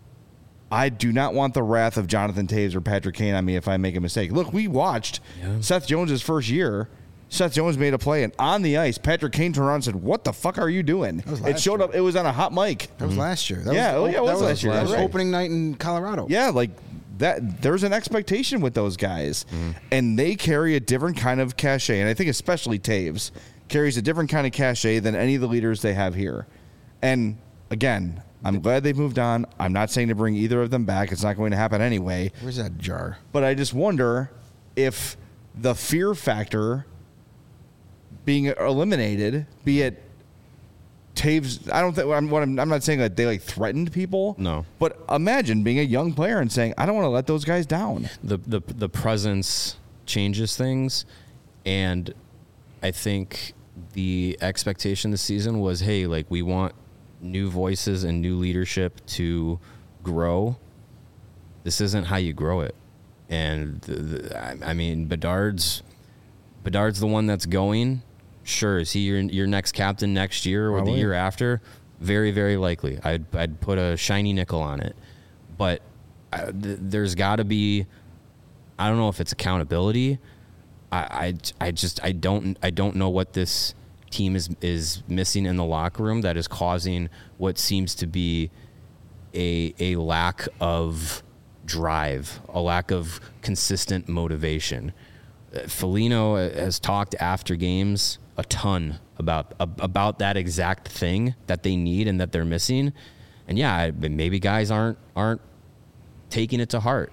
I do not want the wrath of Jonathan Taves or Patrick Kane on me if I make a mistake. Look, we watched yeah. Seth Jones' first year. Seth Jones made a play, and on the ice, Patrick Kane turned around and said, what the fuck are you doing? It showed year. up. It was on a hot mic. That was mm-hmm. last year. That yeah, was, yeah, it was, that was last year. That was right. opening night in Colorado. Yeah, like that. There's an expectation with those guys, mm-hmm. and they carry a different kind of cachet. And I think especially Taves carries a different kind of cachet than any of the leaders they have here. And again, I'm glad they've moved on. I'm not saying to bring either of them back. It's not going to happen anyway. Where's that jar? But I just wonder if the fear factor being eliminated, be it Taves, I don't think I'm, what I'm, I'm not saying that they like threatened people. No. But imagine being a young player and saying, I don't want to let those guys down. The the the presence changes things, and I think the expectation this season was, hey, like, we want new voices and new leadership to grow. This isn't how you grow it. And the, the, I, I mean, Bedard's Bedard's the one that's going. Sure, is he your your next captain next year or Probably. the year after? Very, very likely. I'd I'd put a shiny nickel on it. But uh, th- there's got to be, I don't know if it's accountability. I, I I just I don't I don't know what this team is is missing in the locker room that is causing what seems to be a a lack of drive, a lack of consistent motivation. Uh, Foligno has talked after games a ton about uh, about that exact thing that they need and that they're missing. And yeah, maybe guys aren't aren't taking it to heart.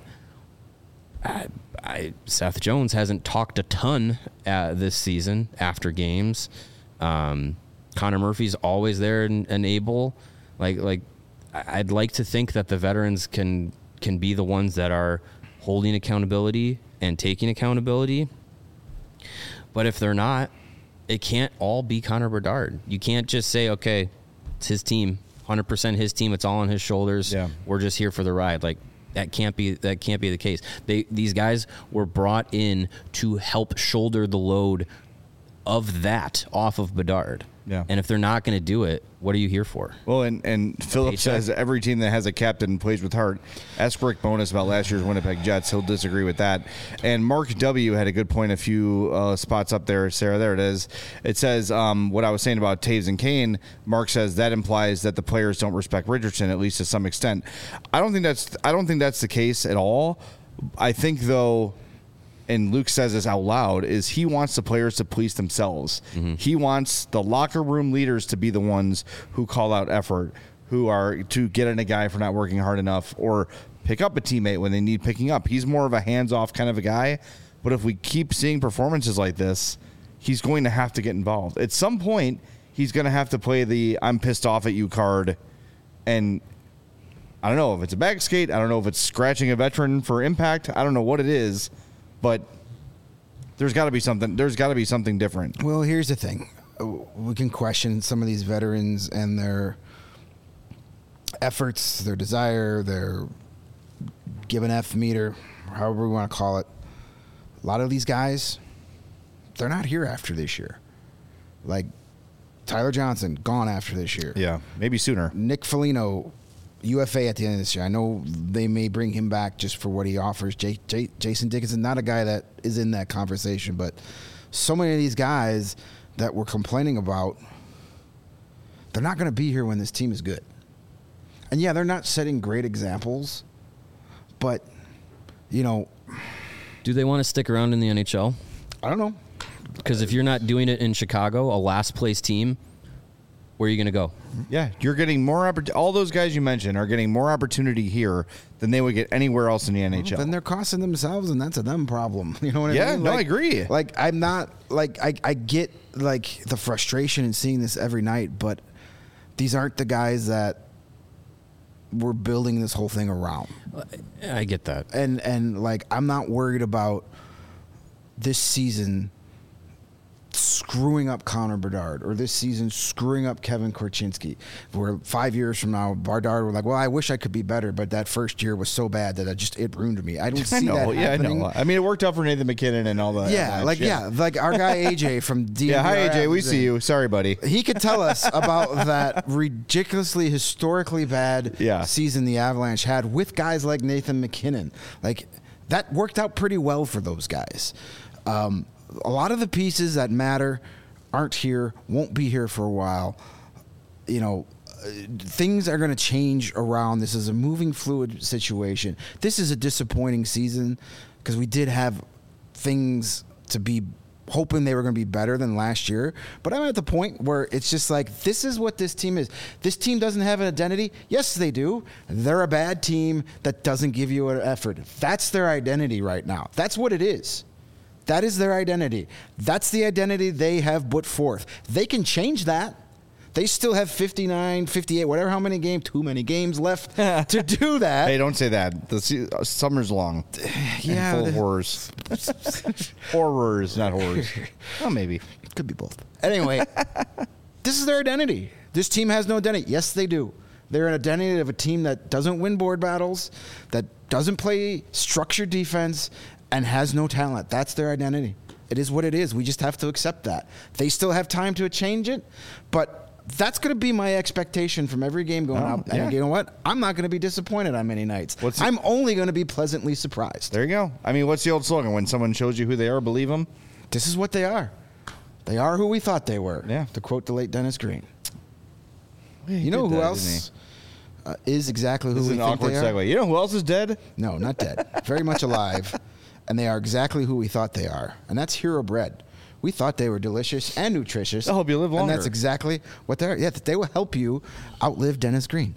I, I, Seth Jones hasn't talked a ton uh, this season after games. Um, Connor Murphy's always there and, and able. Like, like I'd like to think that the veterans can can be the ones that are holding accountability and taking accountability. But if they're not, it can't all be Connor Bedard. You can't just say, okay, it's his team, one hundred percent his team. It's all on his shoulders. Yeah. We're just here for the ride. Like that can't be that can't be the case. They these guys were brought in to help shoulder the load of that off of Bedard. Yeah. And if they're not going to do it, what are you here for? Well, and, and Philip paycheck? says every team that has a captain plays with heart. Ask Rick Bonus about last year's Winnipeg Jets. He'll disagree with that. And Mark W. had a good point a few uh, spots up there. Sarah, there it is. It says um, what I was saying about Taves and Kane. Mark says that implies that the players don't respect Richardson, at least to some extent. I don't think that's I don't think that's the case at all. I think, though, and Luke says this out loud, is he wants the players to police themselves. Mm-hmm. He wants the locker room leaders to be the ones who call out effort, who are to get in a guy for not working hard enough or pick up a teammate when they need picking up. He's more of a hands-off kind of a guy. But if we keep seeing performances like this, he's going to have to get involved. At some point, he's going to have to play the I'm pissed off at you card. And I don't know if it's a back skate. I don't know if it's scratching a veteran for impact. I don't know what it is. But there's got to be something. There's got to be something different. Well, here's the thing: we can question some of these veterans and their efforts, their desire, their give an F meter, however we want to call it. A lot of these guys, they're not here after this year. Like Tyler Johnson, gone after this year. Yeah, maybe sooner. Nick Foligno, U F A at the end of this year. I know they may bring him back just for what he offers. J- J- Jason Dickinson, not a guy that is in that conversation, but so many of these guys that we're complaining about, they're not going to be here when this team is good. And yeah, they're not setting great examples, but, you know. Do they want to stick around in the N H L? I don't know. Because if you're not doing it in Chicago, a last place team, where are you going to go? Yeah, you're getting more opportunity. All those guys you mentioned are getting more opportunity here than they would get anywhere else in the N H L. Well, then they're costing themselves, and that's a them problem. You know what I Yeah, mean? no, Like- I agree. Like, I'm not, like, I, I get, like, the frustration in seeing this every night, but these aren't the guys that we're building this whole thing around. I get that. And, and like, I'm not worried about this season screwing up Connor Bedard or this season screwing up Kevin Korchinski. Where five years from now, Bedard, we're like, well, I wish I could be better, but that first year was so bad that I just it ruined me. I don't see I know, that yeah, happening. I know. I mean, it worked out for Nathan McKinnon and all that. Yeah, that like shit. yeah, like our guy A J from D. Yeah, hi A J, we see you. Sorry, buddy. He could tell us about that ridiculously, historically bad Yeah. season the Avalanche had with guys like Nathan McKinnon. Like that worked out pretty well for those guys. Um, a lot of the pieces that matter aren't here, won't be here for a while. You know, uh, things are going to change around. This is a moving, fluid situation. This is a disappointing season because we did have things to be hoping they were going to be better than last year. But I'm at the point where it's just like, this is what this team is. This team doesn't have an identity. Yes, they do. They're a bad team that doesn't give you an effort. That's their identity right now. That's what it is. That is their identity. That's the identity they have put forth. They can change that. They still have fifty-nine, fifty-eight, whatever, how many games, too many games left to do that. Hey, don't say that. The se- uh, summer's long. Yeah, And full the- of horrors. Horrors, not horrors. Well, maybe. Could be both. Anyway, this is their identity. This team has no identity. Yes, they do. They're an identity of a team that doesn't win board battles, that doesn't play structured defense, and has no talent. That's their identity. It is what it is. We just have to accept that. They still have time to change it, but that's going to be my expectation from every game going Oh, up. yeah. And you know what? I'm not going to be disappointed on many nights. What's I'm only going to be pleasantly surprised. There you go. I mean, what's the old slogan? When someone shows you who they are, believe them. This is what they are. They are who we thought they were. Yeah. To quote the late Dennis Green. Yeah, he You know did who that, else uh, is exactly who This is we an think awkward they are? segue. You know who else is dead? No, not dead. Very much alive. And they are exactly who we thought they are. And that's Hero Bread. We thought they were delicious and nutritious. They'll help you live And longer. that's exactly what they are. Yeah, they will help you outlive Dennis Green.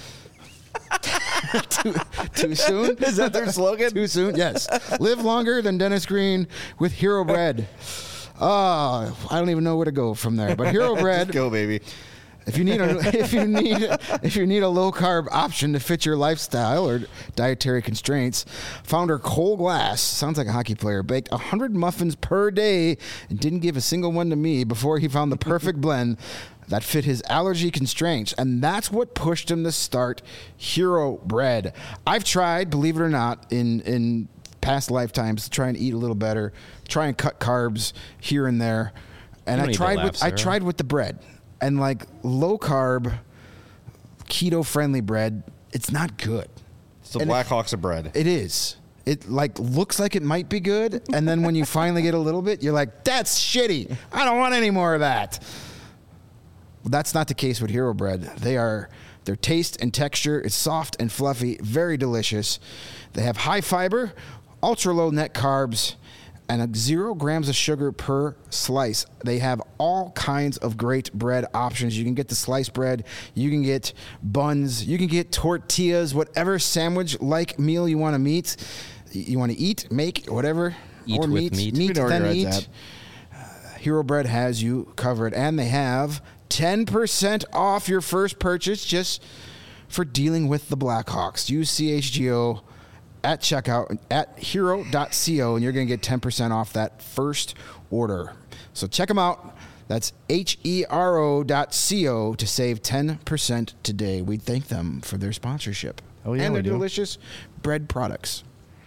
too, too soon? Is that their slogan? Too soon? Yes. Live longer than Dennis Green with Hero Bread. Oh, I don't even know where to go from there. But Hero Bread. Just go, baby. If you need a if you need if you need a low carb option to fit your lifestyle or dietary constraints, founder Cole Glass, sounds like a hockey player, baked one hundred muffins per day and didn't give a single one to me before he found the perfect blend that fit his allergy constraints, and that's what pushed him to start Hero Bread. I've tried, believe it or not, in in past lifetimes to try and eat a little better, try and cut carbs here and there, and You don't I need to tried laugh, with I Sarah. tried with the bread. And like low carb, keto friendly bread, it's not good. It's the And Black Hawks of bread. It is. It like looks like it might be good, and then when you finally get a little bit, you're like, "That's shitty. I don't want any more of that." Well, that's not the case with Hero Bread. They are their taste and texture is soft and fluffy, very delicious. They have high fiber, ultra low net carbs, and a zero grams of sugar per slice. They have all kinds of great bread options. You can get the sliced bread, you can get buns, you can get tortillas, whatever sandwich-like meal you want to meet, you want to eat, make, whatever, Eat or with meat, meat. meat We know where then your eat. head's Uh, Hero Bread has you covered, and they have ten percent off your first purchase just for dealing with the Blackhawks. Use C H G O at checkout at hero dot co, and you're going to get ten percent off that first order. So check them out. That's H E R O dot co to save ten percent today. We thank them for their sponsorship. Oh, yeah, and we their do. delicious bread products.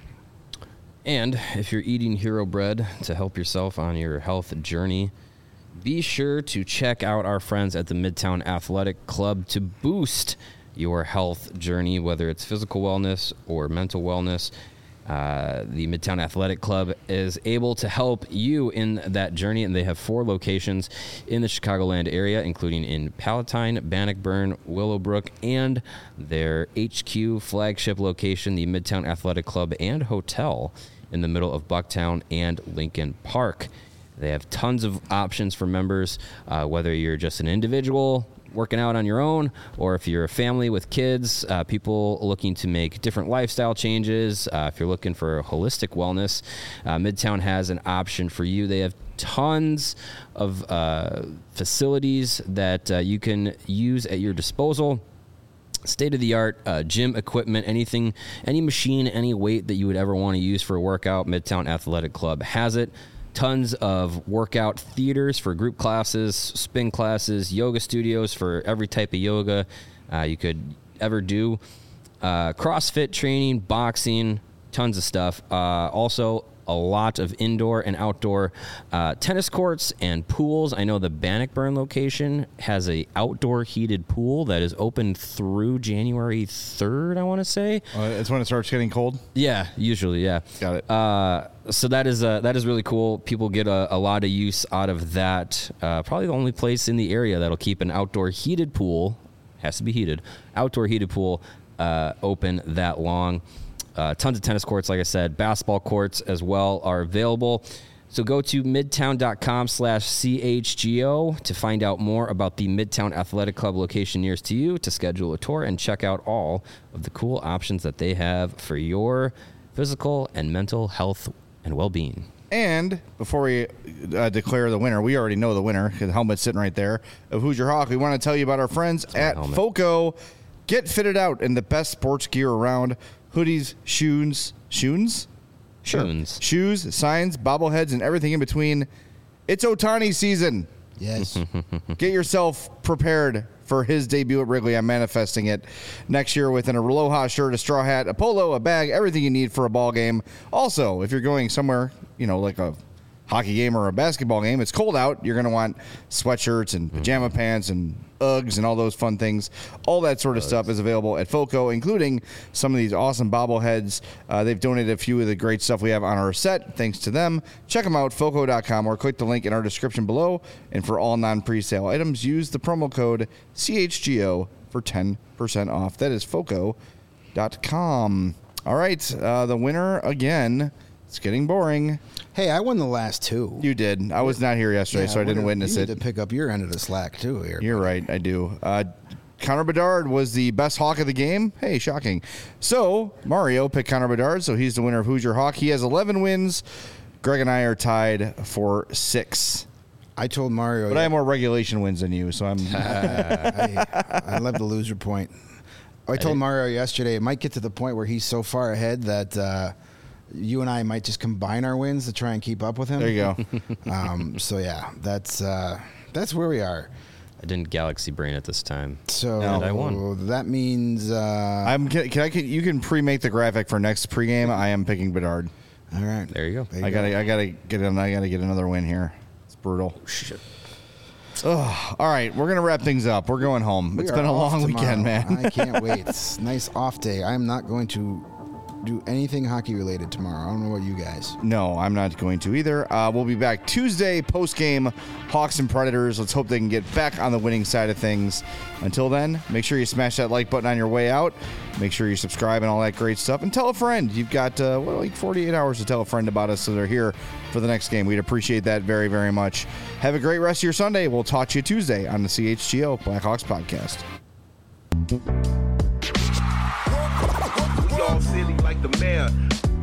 And if you're eating Hero Bread to help yourself on your health journey, be sure to check out our friends at the Midtown Athletic Club to boost your health journey, whether it's physical wellness or mental wellness. Uh, the Midtown Athletic Club is able to help you in that journey, and they have four locations in the Chicagoland area, including in Palatine, Bannockburn, Willowbrook, and their H Q flagship location, the Midtown Athletic Club and Hotel in the middle of Bucktown and Lincoln Park. They have tons of options for members, uh, whether you're just an individual working out on your own, or if you're a family with kids, uh, people looking to make different lifestyle changes. Uh, if you're looking for holistic wellness, uh, Midtown has an option for you. They have tons of uh, facilities that uh, you can use at your disposal. State-of-the-art uh, gym equipment, anything, any machine, any weight that you would ever want to use for a workout, Midtown Athletic Club has it. Tons of workout theaters for group classes, spin classes, yoga studios for every type of yoga uh, you could ever do. Uh, CrossFit training, boxing, tons of stuff. Uh, also, a lot of indoor and outdoor uh, tennis courts and pools. I know the Bannockburn location has a outdoor heated pool that is open through January third, I want to say. Uh, it's when it starts getting cold. Yeah, usually, yeah. Got it. Uh, so that is uh, that is really cool. People get a, a lot of use out of that. Uh, probably the only place in the area that'll keep an outdoor heated pool, has to be heated, outdoor heated pool uh, open that long. Uh, tons of tennis courts, like I said. Basketball courts as well are available. So go to midtown.com slash CHGO to find out more about the Midtown Athletic Club location nearest to you, to schedule a tour and check out all of the cool options that they have for your physical and mental health and well-being. And before we uh, declare the winner, we already know the winner. The helmet's sitting right there of Hoosier Hawk. We want to tell you about our friends my at helmet. FOCO. Get fitted out in the best sports gear around. Hoodies, shoes, shoes? Shoons. Shoes, signs, bobbleheads, and everything in between. It's Ohtani season. Yes. Get yourself prepared for his debut at Wrigley. I'm manifesting it next year with an Aloha shirt, a straw hat, a polo, a bag, everything you need for a ball game. Also, if you're going somewhere, you know, like a hockey game or a basketball game, it's cold out. You're going to want sweatshirts and pajama pants and Uggs and all those fun things. All that sort of stuff is available at FOCO, including some of these awesome bobbleheads. Uh, they've donated a few of the great stuff we have on our set. Thanks to them. Check them out, foco dot com, or click the link in our description below. And for all non-presale items, use the promo code C H G O for ten percent off. That is foco dot com. All right, uh, the winner again. It's getting boring. Hey, I won the last two. You did. I was not here yesterday, Yeah, so I didn't we're- witness you it. need to pick up your end of the slack too here. You're right, I do. Uh, Connor Bedard was the best Hawk of the game. Hey, shocking. So, Mario picked Connor Bedard, so he's the winner of Hoosier Hawk. He has eleven wins. Greg and I are tied for six. I told Mario, But I have more regulation wins than you, so I'm. I, I love the loser point. I told Mario yesterday it might get to the point where he's so far ahead that uh, you and I might just combine our wins to try and keep up with him. There you go. um, so yeah, that's uh, that's where we are. I didn't Galaxy Brain it this time. So And I won. that means uh, I'm. Can, can I? Can, you can pre-make the graphic for next pregame. I am picking Bedard. all right. There you go. There you I go. gotta. I gotta get. An, I gotta get another win here. It's brutal. Shit. Ugh. All right, we're gonna wrap things up. We're going home. We It's are been a off long tomorrow. weekend, man. I can't wait. It's a nice off day. I'm not going to do anything hockey related tomorrow. I don't know about you guys. No, I'm not going to either. Uh, we'll be back Tuesday post game. Hawks and Predators. Let's hope they can get back on the winning side of things. Until then, make sure you smash that like button on your way out. Make sure you subscribe and all that great stuff. And tell a friend. You've got uh, well, like forty-eight hours to tell a friend about us so they're here for the next game. We'd appreciate that very, very much. Have a great rest of your Sunday. We'll talk to you Tuesday on the C H G O Blackhawks podcast. We all silly like the mayor.